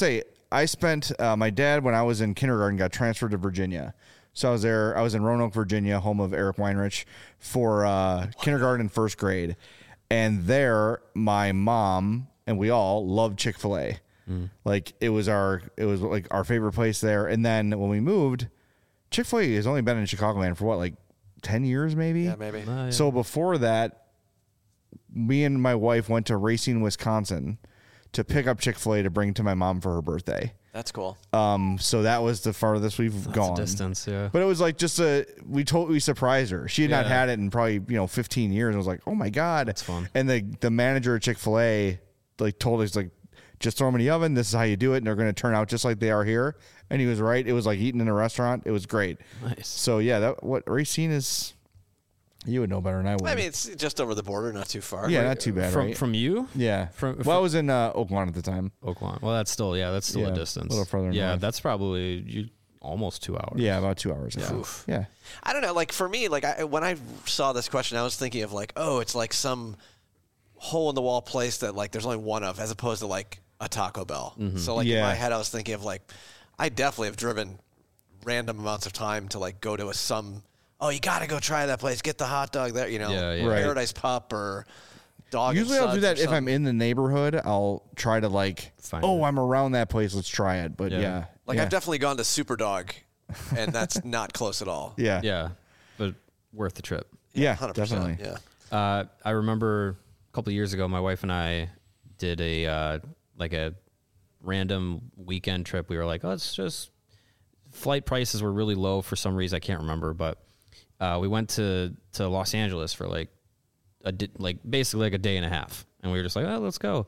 I spent my dad, when I was in kindergarten, got transferred to Virginia. So I was there. I was in Roanoke, Virginia, home of Eric Weinrich, for kindergarten and first grade. And there, my mom and we all loved Chick-fil-A. Like it was like our favorite place there. And then when we moved, Chick-fil-A has only been in Chicagoland for what, like 10 years maybe? Yeah, maybe. Yeah. So before that, me and my wife went to Racine, Wisconsin to pick up Chick-fil-A to bring to my mom for her birthday. That's cool. So that was the farthest we've gone. Distance, yeah. But it was like just we totally surprised her. She had not had it in probably 15 years. And was like, oh my God, that's fun. And the manager at Chick-fil-A like told us, like, just throw them in the oven. This is how you do it, and they're going to turn out just like they are here. And he was right. It was like eating in a restaurant. It was great. Nice. So yeah, what Racine is. You would know better than I would. I mean, it's just over the border, not too far. Yeah, not too bad, right? From you? Yeah. I was in Oakland at the time. Oakland. Well, that's still a distance. A little further Yeah, north. that's probably almost 2 hours. Yeah, about 2 hours. Yeah. I don't know. Like for me, like when I saw this question, I was thinking of like, oh, it's like some hole in the wall place that like there's only one of, as opposed to like a Taco Bell. So like in my head, I was thinking of like, I definitely have driven random amounts of time to like go to some. Oh, you got to go try that place. Get the hot dog there, Right. Paradise Pup or Dog. Usually I'll do that if I'm in the neighborhood. I'll try to like, I'm around that place. Let's try it. But yeah. I've definitely gone to Superdog, and that's not close at all. Yeah. Yeah, but worth the trip. Yeah, 100%, definitely. Yeah. I remember a couple of years ago, my wife and I did a random weekend trip. We were like, let's just, flight prices were really low for some reason. I can't remember, but we went to Los Angeles for basically a day and a half, and we were just like, oh, let's go.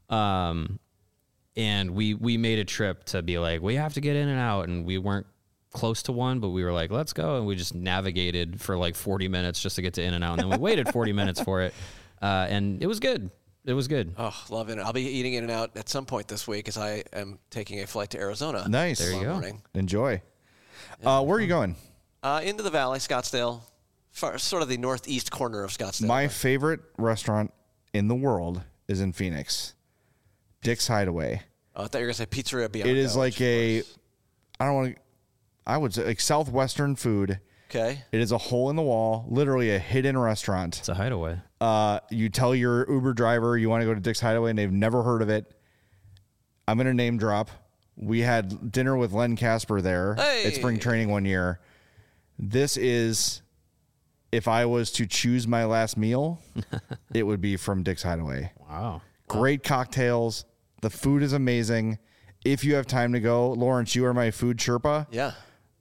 And we made a trip to be like, we have to get in and out, and we weren't close to one, but we were like, let's go, and we just navigated for like 40 minutes just to get to In and Out, and then we waited 40 minutes for it, and it was good. It was good. Oh, love it. I'll be eating In and Out at some point this week as I am taking a flight to Arizona. Nice. There you go. Morning. Enjoy. Where are you going? Into the valley, Scottsdale, sort of the northeast corner of Scottsdale. My favorite restaurant in the world is in Phoenix. Dick's Hideaway. Oh, I thought you were going to say Pizzeria Bianco. It is like I would say like Southwestern food. Okay. It is a hole in the wall, literally a hidden restaurant. It's a hideaway. You tell your Uber driver you want to go to Dick's Hideaway and they've never heard of it. I'm going to name drop. We had dinner with Len Casper there at spring training one year. This is, if I was to choose my last meal, it would be from Dick's Hideaway. Wow. Great cocktails. The food is amazing. If you have time to go, Lawrence, you are my food Sherpa. Yeah.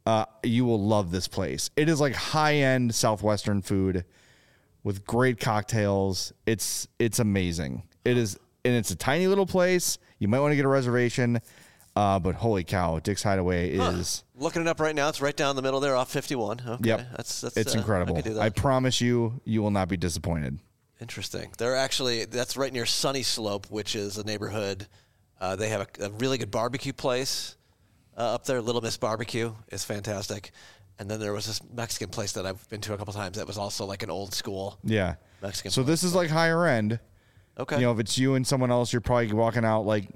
You will love this place. It is like high-end Southwestern food with great cocktails. It's amazing. It is, and it's a tiny little place. You might want to get a reservation, but holy cow, Dick's Hideaway is... Looking it up right now. It's right down the middle there off 51. Okay. Yep. It's incredible. I promise you will not be disappointed. Interesting. That's right near Sunny Slope, which is a neighborhood. They have a really good barbecue place up there. Little Miss Barbecue is fantastic. And then there was this Mexican place that I've been to a couple times that was also like an old school Mexican So place. this is like higher end. Okay. If it's you and someone else, you're probably walking out like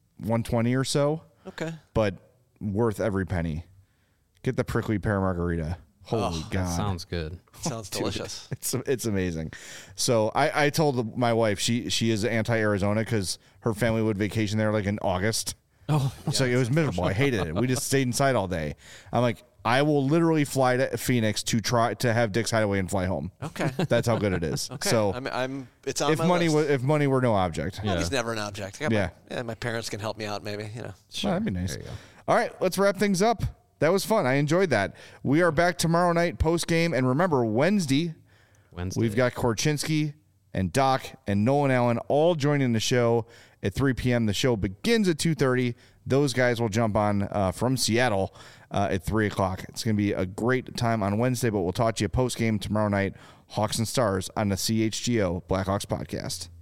120 or so. Okay. But worth every penny. Get the prickly pear margarita. Holy God. That sounds good. Sounds delicious. It's amazing. So I told my wife she is anti-Arizona because her family would vacation there like in August. Oh. So it was miserable. I hated it. We just stayed inside all day. I'm like, I will literally fly to Phoenix to try to have Dick's Hideaway and fly home. Okay. That's how good it is. Okay. So it's on if my money list. if money were no object. Well, he's never an object. My parents can help me out maybe, Sure. That'd be nice. All right, let's wrap things up. That was fun. I enjoyed that. We are back tomorrow night post-game. And remember, Wednesday, we've got Korchinski and Doc and Nolan Allen all joining the show at 3 p.m. The show begins at 2:30. Those guys will jump on from Seattle at 3 o'clock. It's going to be a great time on Wednesday, but we'll talk to you post-game tomorrow night, Hawks and Stars on the CHGO Blackhawks podcast.